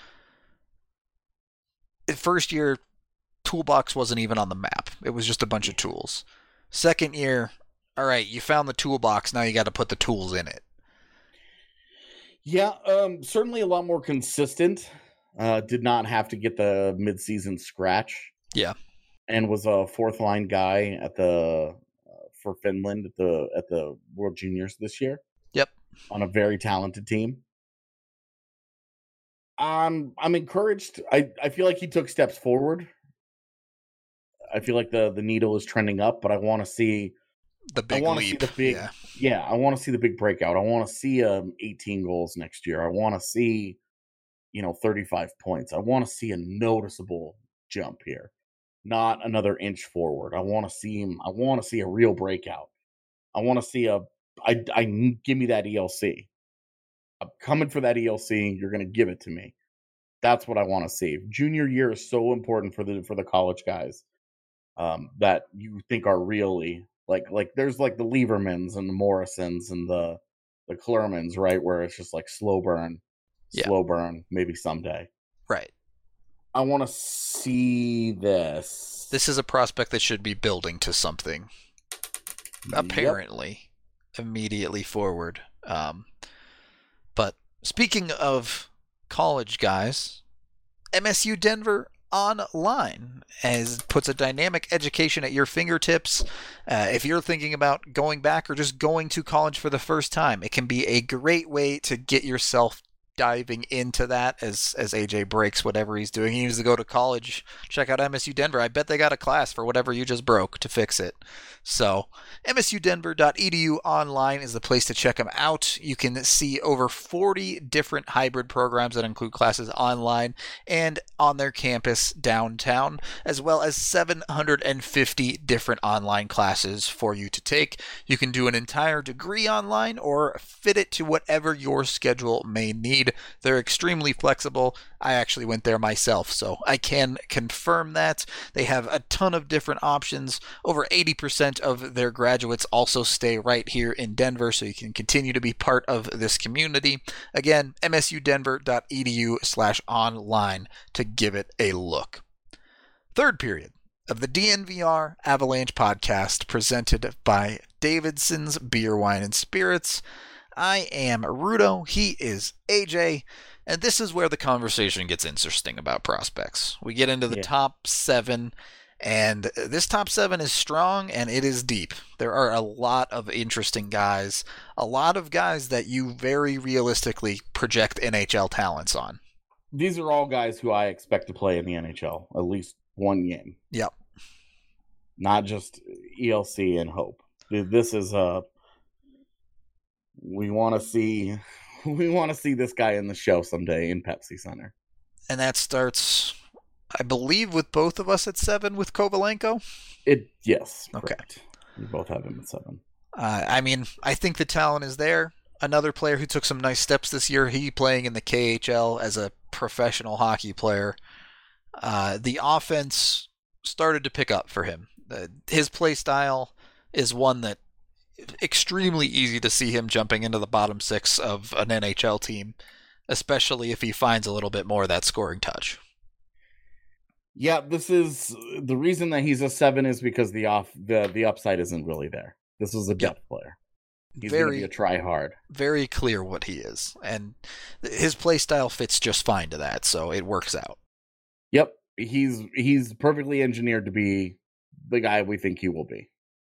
Speaker 1: First year, toolbox wasn't even on the map. It was just a bunch of tools. Second year, all right, you found the toolbox, now you got to put the tools in it.
Speaker 3: Yeah, certainly a lot more consistent. Did not have to get the midseason scratch.
Speaker 1: Yeah.
Speaker 3: And was a fourth line guy for Finland at the World Juniors this year.
Speaker 1: Yep.
Speaker 3: On a very talented team. I'm encouraged. I feel like he took steps forward. I feel like the needle is trending up, but I want to see
Speaker 1: the big leap.
Speaker 3: I want to see the big breakout. I want to see 18 goals next year. I want to see 35 points. I want to see a noticeable jump here, not another inch forward. I want to see him. I want to see a real breakout. I want to see give me that ELC. I'm coming for that ELC. You're going to give it to me. That's what I want to see. Junior year is so important for the college guys that you think are really like there's like the Liebermans and the Morrisons and the Klermans, right? Where it's just like slow burn, maybe someday.
Speaker 1: Right.
Speaker 3: I want to see this.
Speaker 1: This is a prospect that should be building to something. Apparently, immediately forward. But speaking of college guys, MSU Denver Online puts a dynamic education at your fingertips. If you're thinking about going back or just going to college for the first time, it can be a great way to get yourself diving into that as AJ breaks whatever he's doing. He needs to go to college. Check out MSU Denver. I bet they got a class for whatever you just broke to fix it. So msudenver.edu online is the place to check them out. You can see over 40 different hybrid programs that include classes online and on their campus downtown, as well as 750 different online classes for you to take. You can do an entire degree online or fit it to whatever your schedule may need. They're extremely flexible. I actually went there myself, so I can confirm that. They have a ton of different options. Over 80% of their graduates also stay right here in Denver, so you can continue to be part of this community. Again, msudenver.edu/online to give it a look. Third period of the DNVR Avalanche podcast presented by Davidson's Beer, Wine, and Spirits. I am Rudo, he is AJ, and this is where the conversation gets interesting about prospects. We get into the top 7, and this top 7 is strong and it is deep. There are a lot of interesting guys, a lot of guys that you very realistically project NHL talents on.
Speaker 3: These are all guys who I expect to play in the NHL, at least one game.
Speaker 1: Yep.
Speaker 3: Not just ELC and hope. This is we want to see this guy in the show someday in Pepsi Center.
Speaker 1: And that starts, I believe, with both of us at 7 with Kovalenko?
Speaker 3: Yes.
Speaker 1: Okay.
Speaker 3: Correct. We both have him at 7.
Speaker 1: I mean, I think the talent is there. Another player who took some nice steps this year, he playing in the KHL as a professional hockey player. The offense started to pick up for him. His play style is one that extremely easy to see him jumping into the bottom 6 of an NHL team, especially if he finds a little bit more of that scoring touch.
Speaker 3: Yeah, this is the reason that he's a 7 is because the upside isn't really there. This is a depth player. He's going to be a try-hard.
Speaker 1: Very clear what he is, and his play style fits just fine to that, so it works out.
Speaker 3: Yep, he's perfectly engineered to be the guy we think he will be.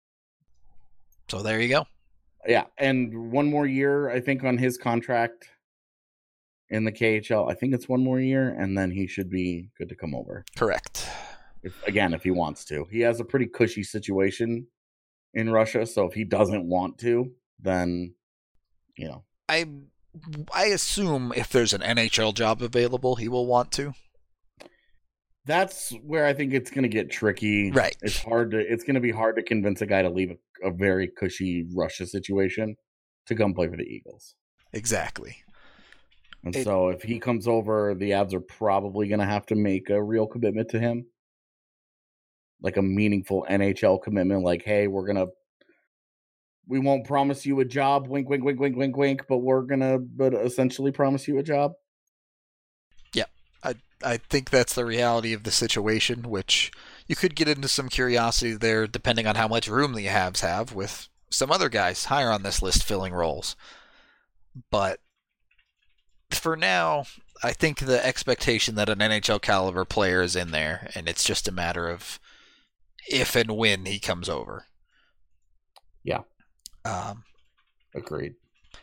Speaker 1: So there you go.
Speaker 3: Yeah, and one more year, I think, on his contract in the KHL. I think it's one more year, and then he should be good to come over.
Speaker 1: Correct.
Speaker 3: If he wants to. He has a pretty cushy situation in Russia, so if he doesn't want to, then,
Speaker 1: I assume if there's an NHL job available, he will want to.
Speaker 3: That's where I think it's going to get tricky.
Speaker 1: Right.
Speaker 3: It's going to be hard to convince a guy to leave a very cushy Russia situation to come play for the Eagles.
Speaker 1: Exactly.
Speaker 3: And so if he comes over, the Avs are probably going to have to make a real commitment to him. Like a meaningful NHL commitment. Like, hey, we won't promise you a job, wink, wink, wink, wink, wink, wink, but but essentially promise you a job.
Speaker 1: Yeah. I think that's the reality of the situation, which you could get into some curiosity there depending on how much room the Habs have with some other guys higher on this list filling roles. But for now, I think the expectation that an NHL caliber player is in there, and it's just a matter of if and when he comes over.
Speaker 3: Yeah. Agreed.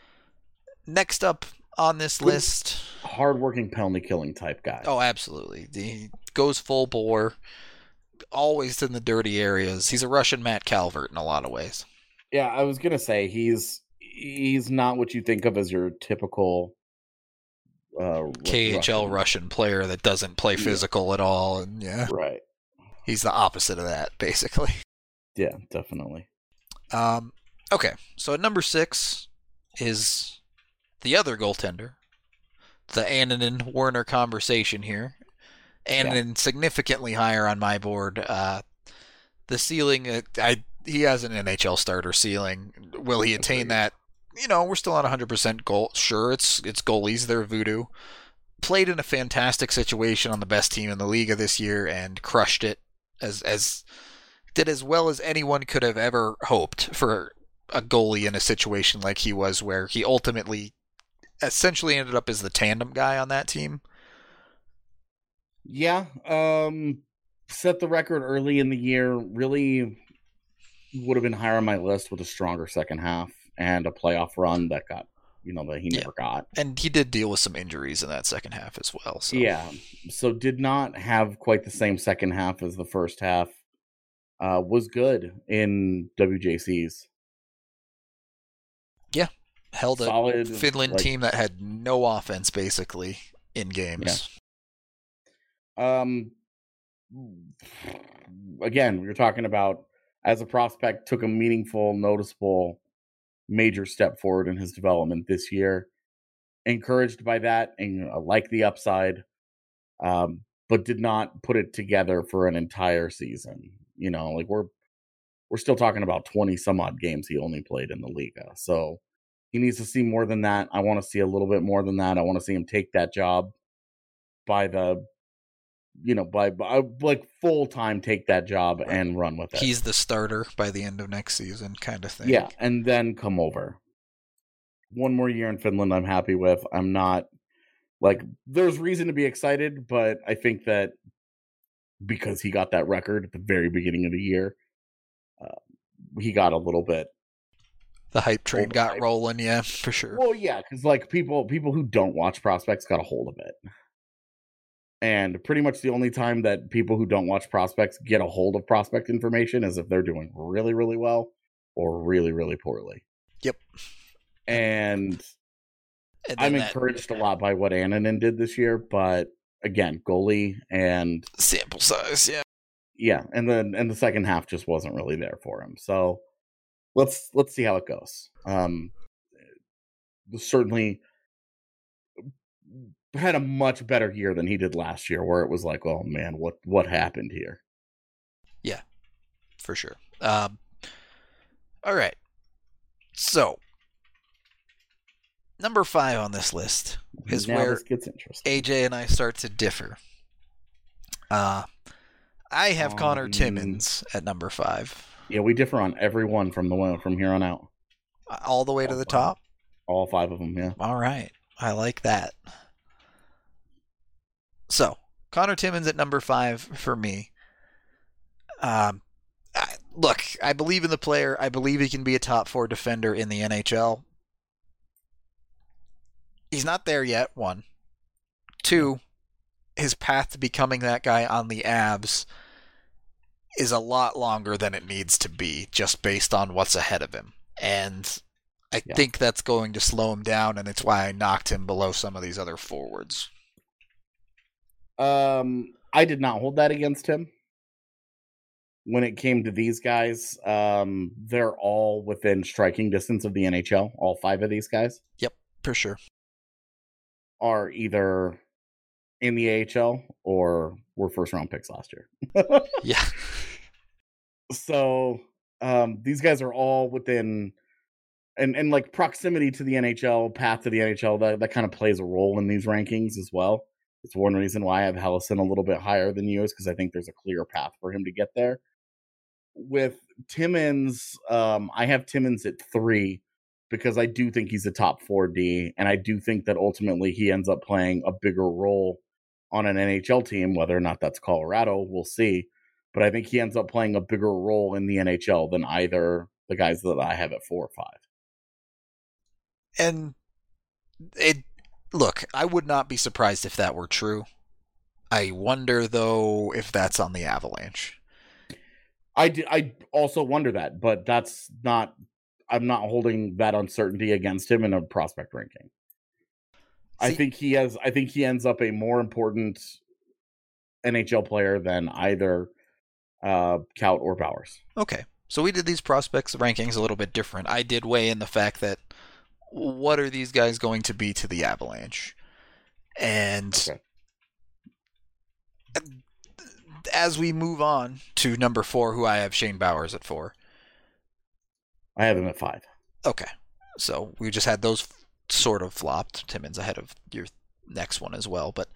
Speaker 1: Next up on this list,
Speaker 3: hardworking penalty killing type guy.
Speaker 1: Oh, absolutely. He goes full bore, always in the dirty areas. He's a Russian Matt Calvert in a lot of ways.
Speaker 3: Yeah, I was gonna say he's not what you think of as your typical
Speaker 1: KHL Russian player that doesn't play physical at all, and
Speaker 3: right.
Speaker 1: He's the opposite of that, basically.
Speaker 3: Yeah, definitely.
Speaker 1: Okay, so at number 6 is the other goaltender, the Annunen-Werner conversation here. Annunen significantly higher on my board. The ceiling, he has an NHL starter ceiling. Will he attain that? We're still on 100% goal. Sure, it's goalies, they're voodoo. Played in a fantastic situation on the best team in the league of this year and crushed it. Did as well as anyone could have ever hoped for a goalie in a situation like he was, where he ultimately essentially ended up as the tandem guy on that team.
Speaker 3: Yeah, set the record early in the year. Really would have been higher on my list with a stronger second half and a playoff run that got, that he never got.
Speaker 1: And he did deal with some injuries in that second half as well. So.
Speaker 3: Yeah, so did not have quite the same second half as the first half. Was good in WJCs.
Speaker 1: Yeah, held
Speaker 3: solid,
Speaker 1: a Finland team that had no offense basically in games.
Speaker 3: Yeah. Again, we were talking about, as a prospect, took a meaningful, noticeable, major step forward in his development this year. Encouraged by that and like the upside, but did not put it together for an entire season. We're still talking about 20 some odd games he only played in the Liga. So he needs to see more than that. I want to see a little bit more than that. I want to see him take that job by full time, take that job and run with it.
Speaker 1: He's the starter by the end of next season kind of thing.
Speaker 3: Yeah. And then come over. One more year in Finland I'm happy with. I'm not there's reason to be excited, but I think that because he got that record at the very beginning of the year, he got a little bit.
Speaker 1: The hype train got rolling, yeah, for sure.
Speaker 3: Well, yeah, because people who don't watch prospects got a hold of it. And pretty much the only time that people who don't watch prospects get a hold of prospect information is if they're doing really, really well or really, really poorly.
Speaker 1: Yep.
Speaker 3: And I'm encouraged a lot by what Annunen did this year, but again, goalie and
Speaker 1: sample size, yeah.
Speaker 3: Yeah, and the second half just wasn't really there for him. So let's see how it goes. Certainly had a much better year than he did last year, where it was like, oh man, what happened here?
Speaker 1: Yeah, for sure. All right. So number 5 on this list is
Speaker 3: now
Speaker 1: where
Speaker 3: this gets interesting.
Speaker 1: AJ and I start to differ. I have Connor Timmins at number 5.
Speaker 3: Yeah, we differ on every one from here on out.
Speaker 1: All the way to the top?
Speaker 3: All 5 of them, yeah.
Speaker 1: All right. I like that. So, Connor Timmins at number 5 for me. Look, I believe in the player. I believe he can be a top 4 defender in the NHL. He's not there yet, 1. 2, his path to becoming that guy on the Avs is a lot longer than it needs to be, just based on what's ahead of him. And I think that's going to slow him down, and it's why I knocked him below some of these other forwards.
Speaker 3: I did not hold that against him. When it came to these guys, they're all within striking distance of the NHL. All 5 of these guys.
Speaker 1: Yep, for sure.
Speaker 3: Are either in the AHL or were first-round picks last year.
Speaker 1: Yeah.
Speaker 3: So these guys are all within, and like proximity to the NHL, path to the NHL, that kind of plays a role in these rankings as well. It's one reason why I have Helleson a little bit higher than you, is because I think there's a clear path for him to get there. With Timmins, I have Timmins at 3 because I do think he's a top 4D, and I do think that ultimately he ends up playing a bigger role on an NHL team. Whether or not that's Colorado, we'll see. But I think he ends up playing a bigger role in the NHL than either the guys that I have at 4 or 5.
Speaker 1: And look, I would not be surprised if that were true. I wonder, though, if that's on the Avalanche.
Speaker 3: I also wonder that, but that's not. I'm not holding that uncertainty against him in a prospect ranking. I think he ends up a more important NHL player than either Kaut or Bowers.
Speaker 1: Okay, so we did these prospects rankings a little bit different. I did weigh in the fact that what are these guys going to be to the Avalanche? And
Speaker 3: Okay.
Speaker 1: as we move on to number 4, who I have Shane Bowers at 4.
Speaker 3: I have him at 5.
Speaker 1: Okay. So we just had those sort of flopped. Timmins ahead of your next one as well. But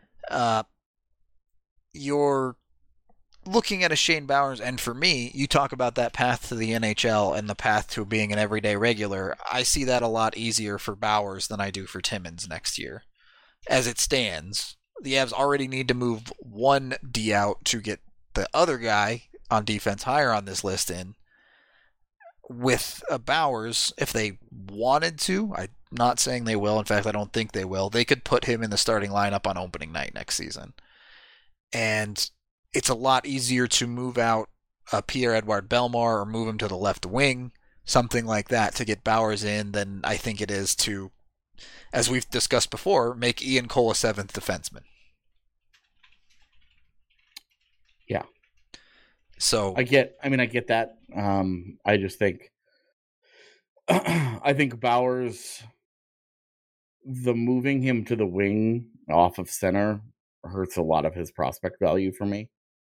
Speaker 1: you're looking at a Shane Bowers, and for me, you talk about that path to the NHL and the path to being an everyday regular. I see that a lot easier for Bowers than I do for Timmins next year. As it stands, the Avs already need to move one D out to get the other guy on defense higher on this list in. With Bowers, if they wanted to, I'm not saying they will. In fact, I don't think they will. They could put him in the starting lineup on opening night next season. And it's a lot easier to move out Pierre-Edouard Bellemare or move him to the left wing, something like that, to get Bowers in than I think it is to, as we've discussed before, make Ian Cole a 7th defenseman.
Speaker 3: Yeah.
Speaker 1: So
Speaker 3: I get that. I just think I think Bowers, the moving him to the wing off of center hurts a lot of his prospect value for me.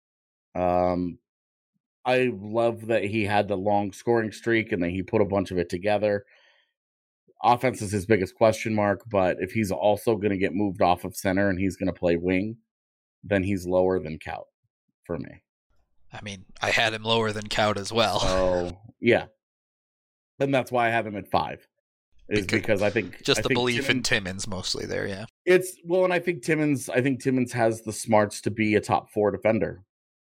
Speaker 3: I love that he had the long scoring streak and that he put a bunch of it together. Offense is his biggest question mark, but if he's also going to get moved off of center and he's going to play wing, then he's lower than Kaut for me.
Speaker 1: I mean, I had him lower than Kaut as well.
Speaker 3: So, yeah. And that's why I have him at 5. Because I think
Speaker 1: just the belief in
Speaker 3: Timmins
Speaker 1: Timmins mostly there, yeah.
Speaker 3: And I think Timmins has the smarts to be a top 4 defender.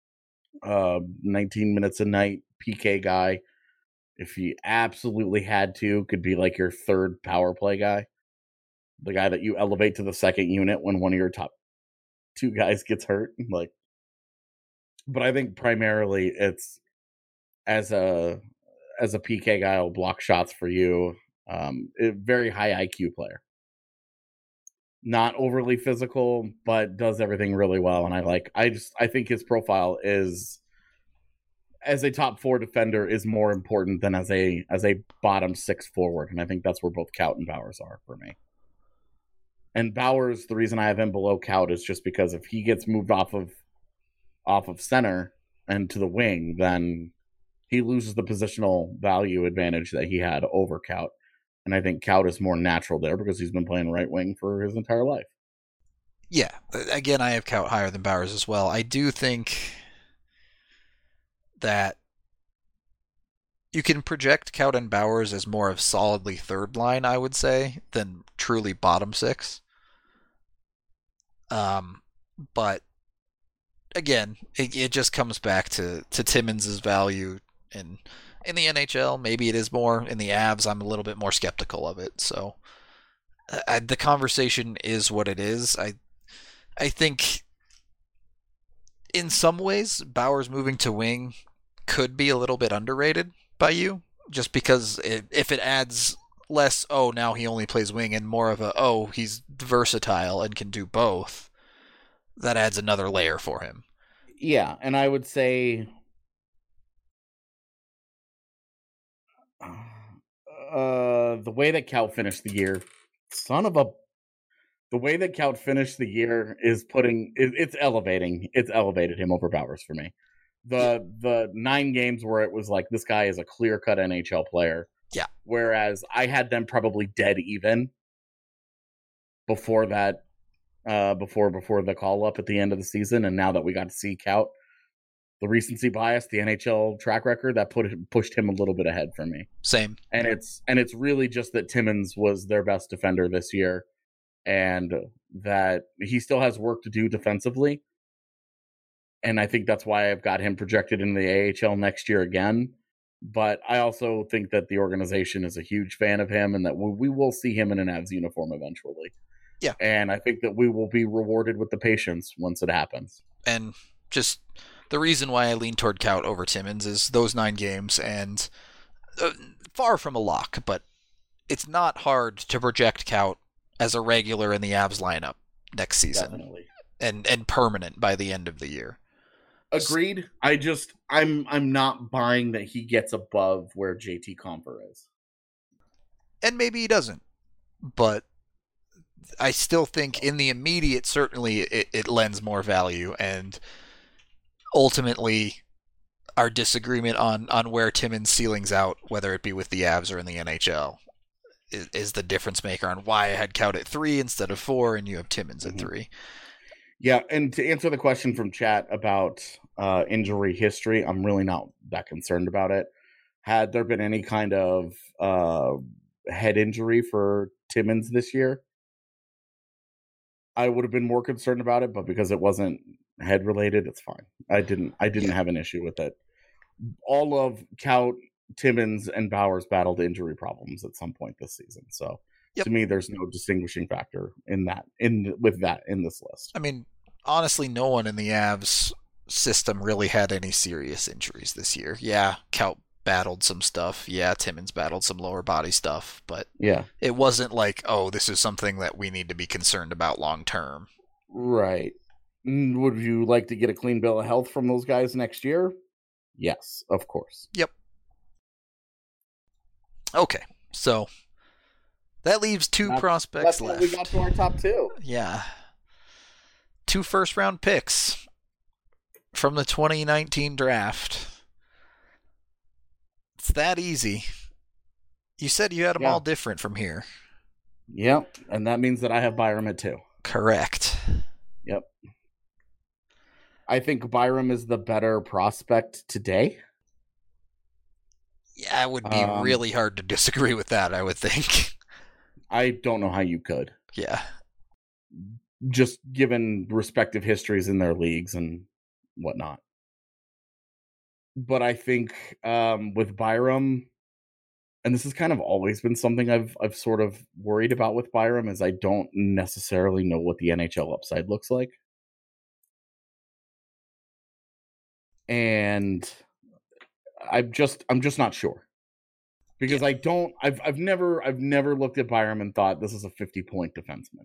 Speaker 3: 19 minutes a night, PK guy. If he absolutely had to, could be like your third power play guy. The guy that you elevate to the second unit when one of your top 2 guys gets hurt. But I think primarily it's as a PK guy will block shots for you. A very high IQ player. Not overly physical, but does everything really well. And I think his profile is, as a top 4 defender, is more important than as a bottom 6 forward. And I think that's where both Kaut and Bowers are for me. And Bowers, the reason I have him below Kaut is just because if he gets moved off of center and to the wing, then he loses the positional value advantage that he had over Kaut. And I think Kaut is more natural there because he's been playing right wing for his entire life.
Speaker 1: Yeah. Again, I have Kaut higher than Bowers as well. I do think that you can project Kaut and Bowers as more of solidly third line, I would say, than truly bottom 6. But again, it just comes back to Timmins' value in the NHL. Maybe it is more. In the Avs, I'm a little bit more skeptical of it. So the conversation is what it is. I think in some ways, Bowers moving to wing could be a little bit underrated by you, just because if it adds less, now he only plays wing, and more of he's versatile and can do both, that adds another layer for him.
Speaker 3: Yeah, and I would say the way that Kaut finished the year, the way that Kaut finished the year is it's elevated him over Bowers for me. The 9 games where it was like, this guy is a clear-cut NHL player.
Speaker 1: Yeah.
Speaker 3: Whereas I had them probably dead even before that, before the call-up at the end of the season, and now that we got to see Kaut, the recency bias, the NHL track record, that pushed him a little bit ahead for me.
Speaker 1: Same.
Speaker 3: And it's really just that Timmins was their best defender this year, and that he still has work to do defensively. And I think that's why I've got him projected in the AHL next year again. But I also think that the organization is a huge fan of him, and that we will see him in an Avs uniform eventually.
Speaker 1: Yeah.
Speaker 3: And I think that we will be rewarded with the patience once it happens.
Speaker 1: And just the reason why I lean toward Kaut over Timmins is those 9 games, and far from a lock, but it's not hard to project Kaut as a regular in the Avs lineup next season.
Speaker 3: Definitely.
Speaker 1: And permanent by the end of the year.
Speaker 3: Agreed. I'm not buying that he gets above where JT Compher is.
Speaker 1: And maybe he doesn't. But I still think in the immediate, certainly it lends more value, and ultimately our disagreement on where Timmins ceilings out, whether it be with the Avs or in the NHL, is the difference maker on why I had Kaut at 3 instead of 4, and you have Timmins at 3.
Speaker 3: Yeah, and to answer the question from chat about injury history, I'm really not that concerned about it. Had there been any kind of head injury for Timmins this year, I would have been more concerned about it, but because it wasn't head related, it's fine. I didn't have an issue with it. All of Kaut, Timmins, and Bowers battled injury problems at some point this season. So to me, there's no distinguishing factor in this list.
Speaker 1: I mean, honestly, no one in the Avs system really had any serious injuries this year. Yeah, Kaut battled some stuff. Yeah, Timmins battled some lower body stuff, but
Speaker 3: yeah,
Speaker 1: it wasn't like, oh, this is something that we need to be concerned about long term.
Speaker 3: Right. Would you like to get a clean bill of health from those guys next year? Yes, of course.
Speaker 1: Yep. Okay, so that leaves two prospects left.
Speaker 3: We got to our top 2.
Speaker 1: Yeah. 2 first-round picks from the 2019 draft. It's that easy. You said you had them all different from here.
Speaker 3: Yep, and that means that I have Byram at 2.
Speaker 1: Correct.
Speaker 3: Yep. I think Byram is the better prospect today.
Speaker 1: Yeah, it would be really hard to disagree with that, I would think.
Speaker 3: I don't know how you could.
Speaker 1: Yeah.
Speaker 3: Just given respective histories in their leagues and whatnot. But I think with Byram, and this has kind of always been something I've sort of worried about with Byram, is I don't necessarily know what the NHL upside looks like. And I'm just not sure. Because I've never looked at Byram and thought this is a 50-point defenseman.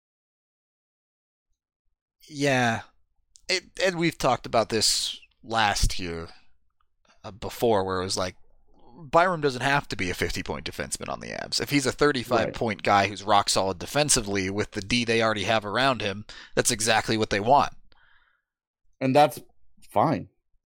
Speaker 1: Yeah. And we've talked about this last year before, where it was like, Byram doesn't have to be a 50-point defenseman on the Avs. If he's a 35-point guy who's rock solid defensively with the D they already have around him, that's exactly what they want.
Speaker 3: And that's fine.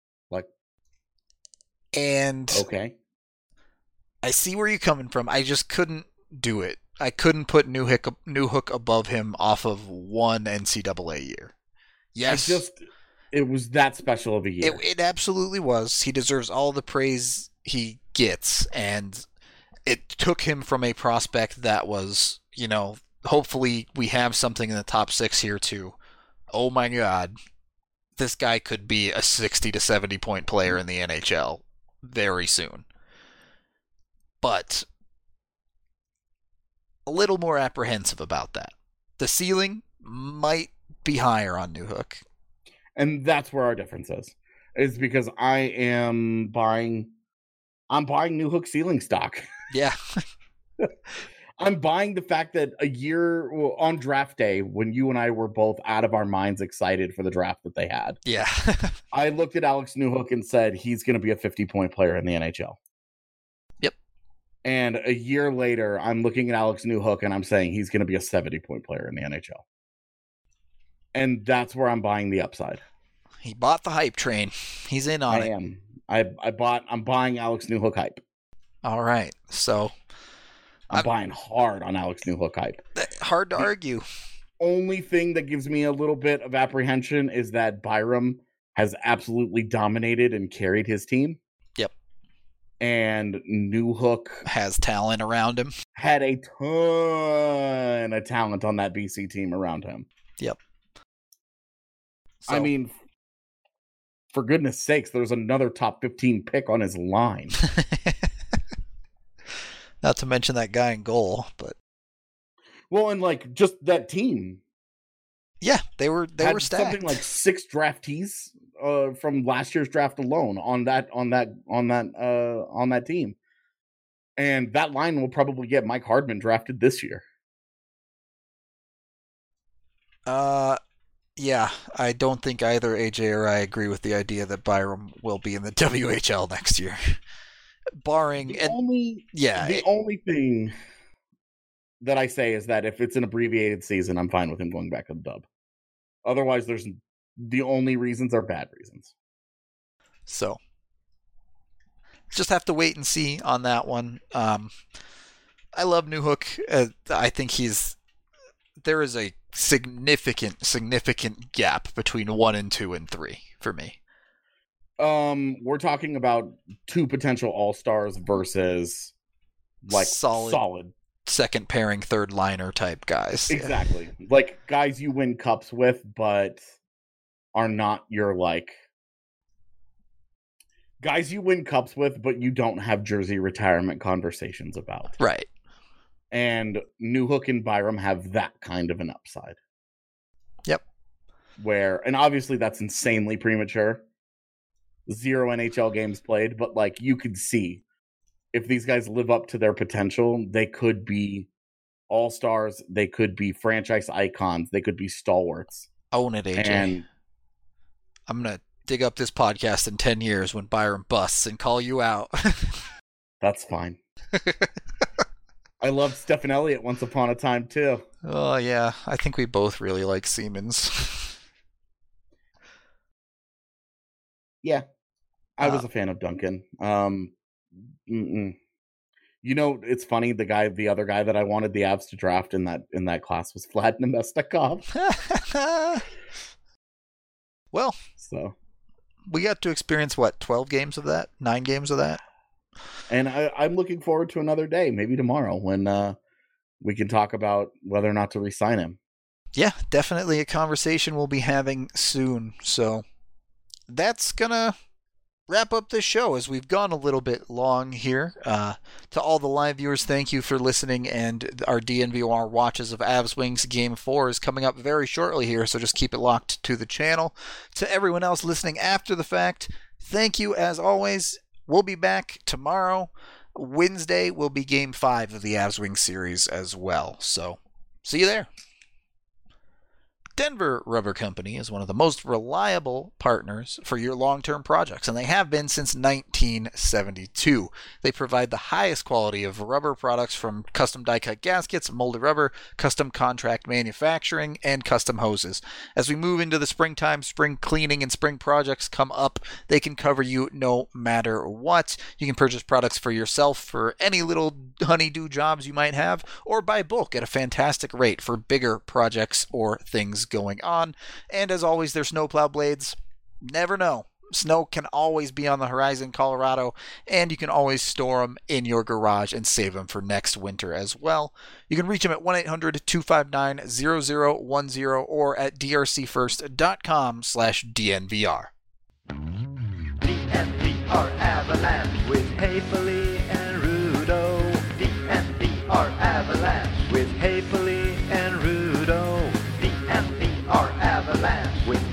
Speaker 1: And
Speaker 3: okay,
Speaker 1: I see where you're coming from. I just couldn't do it. I couldn't put Newhook above him off of one NCAA year. Yes,
Speaker 3: it was that special of a year.
Speaker 1: It absolutely was. He deserves all the praise he gets, and it took him from a prospect that was, hopefully we have something in the top 6 here too. Oh my God, this guy could be a 60 to 70 point player in the NHL very soon. But a little more apprehensive about that. The ceiling might be higher on Newhook.
Speaker 3: And that's where our difference is because I'm buying Newhook ceiling stock.
Speaker 1: Yeah.
Speaker 3: I'm buying the fact that a year on draft day, when you and I were both out of our minds excited for the draft that they had.
Speaker 1: Yeah.
Speaker 3: I looked at Alex Newhook and said, he's going to be a 50-point player in the NHL.
Speaker 1: Yep.
Speaker 3: And a year later, I'm looking at Alex Newhook and I'm saying he's going to be a 70-point player in the NHL. And that's where I'm buying the upside.
Speaker 1: He bought the hype train. He's in on it.
Speaker 3: I am. I'm buying Alex Newhook hype.
Speaker 1: All right. So
Speaker 3: I'm buying hard on Alex Newhook hype.
Speaker 1: Hard to argue.
Speaker 3: Only thing that gives me a little bit of apprehension is that Byram has absolutely dominated and carried his team.
Speaker 1: Yep.
Speaker 3: And Newhook
Speaker 1: has talent around him.
Speaker 3: Had a ton of talent on that BC team around him.
Speaker 1: Yep. So,
Speaker 3: I mean, for goodness sakes, there's another top 15 pick on his line.
Speaker 1: Not to mention that guy in goal, but
Speaker 3: well, and just that team.
Speaker 1: Yeah, they were stacked.
Speaker 3: Something like 6 draftees from last year's draft alone on that team, and that line will probably get Mike Hardman drafted this year.
Speaker 1: Yeah, I don't think either AJ or I agree with the idea that Byram will be in the WHL next year. Barring
Speaker 3: the only thing that I say is that if it's an abbreviated season, I'm fine with him going back to the dub. Otherwise, the only reasons are bad reasons.
Speaker 1: So, just have to wait and see on that one. I love Newhook. I think there is a significant gap between 1 and 2 and 3 for me.
Speaker 3: We're talking about 2 potential all-stars versus like solid
Speaker 1: second pairing, third liner type guys.
Speaker 3: Exactly. Yeah. Like guys you win cups with, but are not your like guys you win cups with, but you don't have jersey retirement conversations about.
Speaker 1: Right.
Speaker 3: And Newhook and Byram have that kind of an upside.
Speaker 1: Yep.
Speaker 3: And obviously that's insanely premature. 0 NHL games played, but like you could see if these guys live up to their potential, they could be all-stars, they could be franchise icons, they could be stalwarts.
Speaker 1: Own it, AJ. And I'm going to dig up this podcast in 10 years when Byram busts and call you out.
Speaker 3: That's fine. I loved Stephen Elliott once upon a time, too.
Speaker 1: Oh, yeah. I think we both really like Siemens.
Speaker 3: Yeah. I was a fan of Duncan. You know, it's funny. The other guy that I wanted the Avs to draft in that class was Vlad Namestnikov.
Speaker 1: Well,
Speaker 3: so
Speaker 1: we got to experience 12 games of that, 9 games of that,
Speaker 3: and I'm looking forward to another day, maybe tomorrow, when we can talk about whether or not to re-sign him.
Speaker 1: Yeah, definitely a conversation we'll be having soon. So that's gonna wrap up this show as we've gone a little bit long here. To all the live viewers, thank you for listening, and our DNVR watches of Avs Wings Game 4 is coming up very shortly here, so just keep it locked to the channel. To everyone else listening after the fact, thank you as always. We'll be back tomorrow. Wednesday will be Game 5 of the Avs Wings series as well, so see you there. Denver Rubber Company is one of the most reliable partners for your long-term projects, and they have been since 1972. They provide the highest quality of rubber products from custom die-cut gaskets, molded rubber, custom contract manufacturing, and custom hoses. As we move into the springtime, spring cleaning and spring projects come up, they can cover you no matter what. You can purchase products for yourself for any little honey-do jobs you might have, or buy bulk at a fantastic rate for bigger projects or things going on. And as always, their snowplow blades, never know. Snow can always be on the horizon in Colorado, and you can always store them in your garage and save them for next winter as well. You can reach them at 1-800-259-0010 or at drcfirst.com/DNVR.
Speaker 4: DNVR Avalanche with Haefele and Rudo. DNVR Avalanche with Haefele and Rudo. DNVR Avalanche with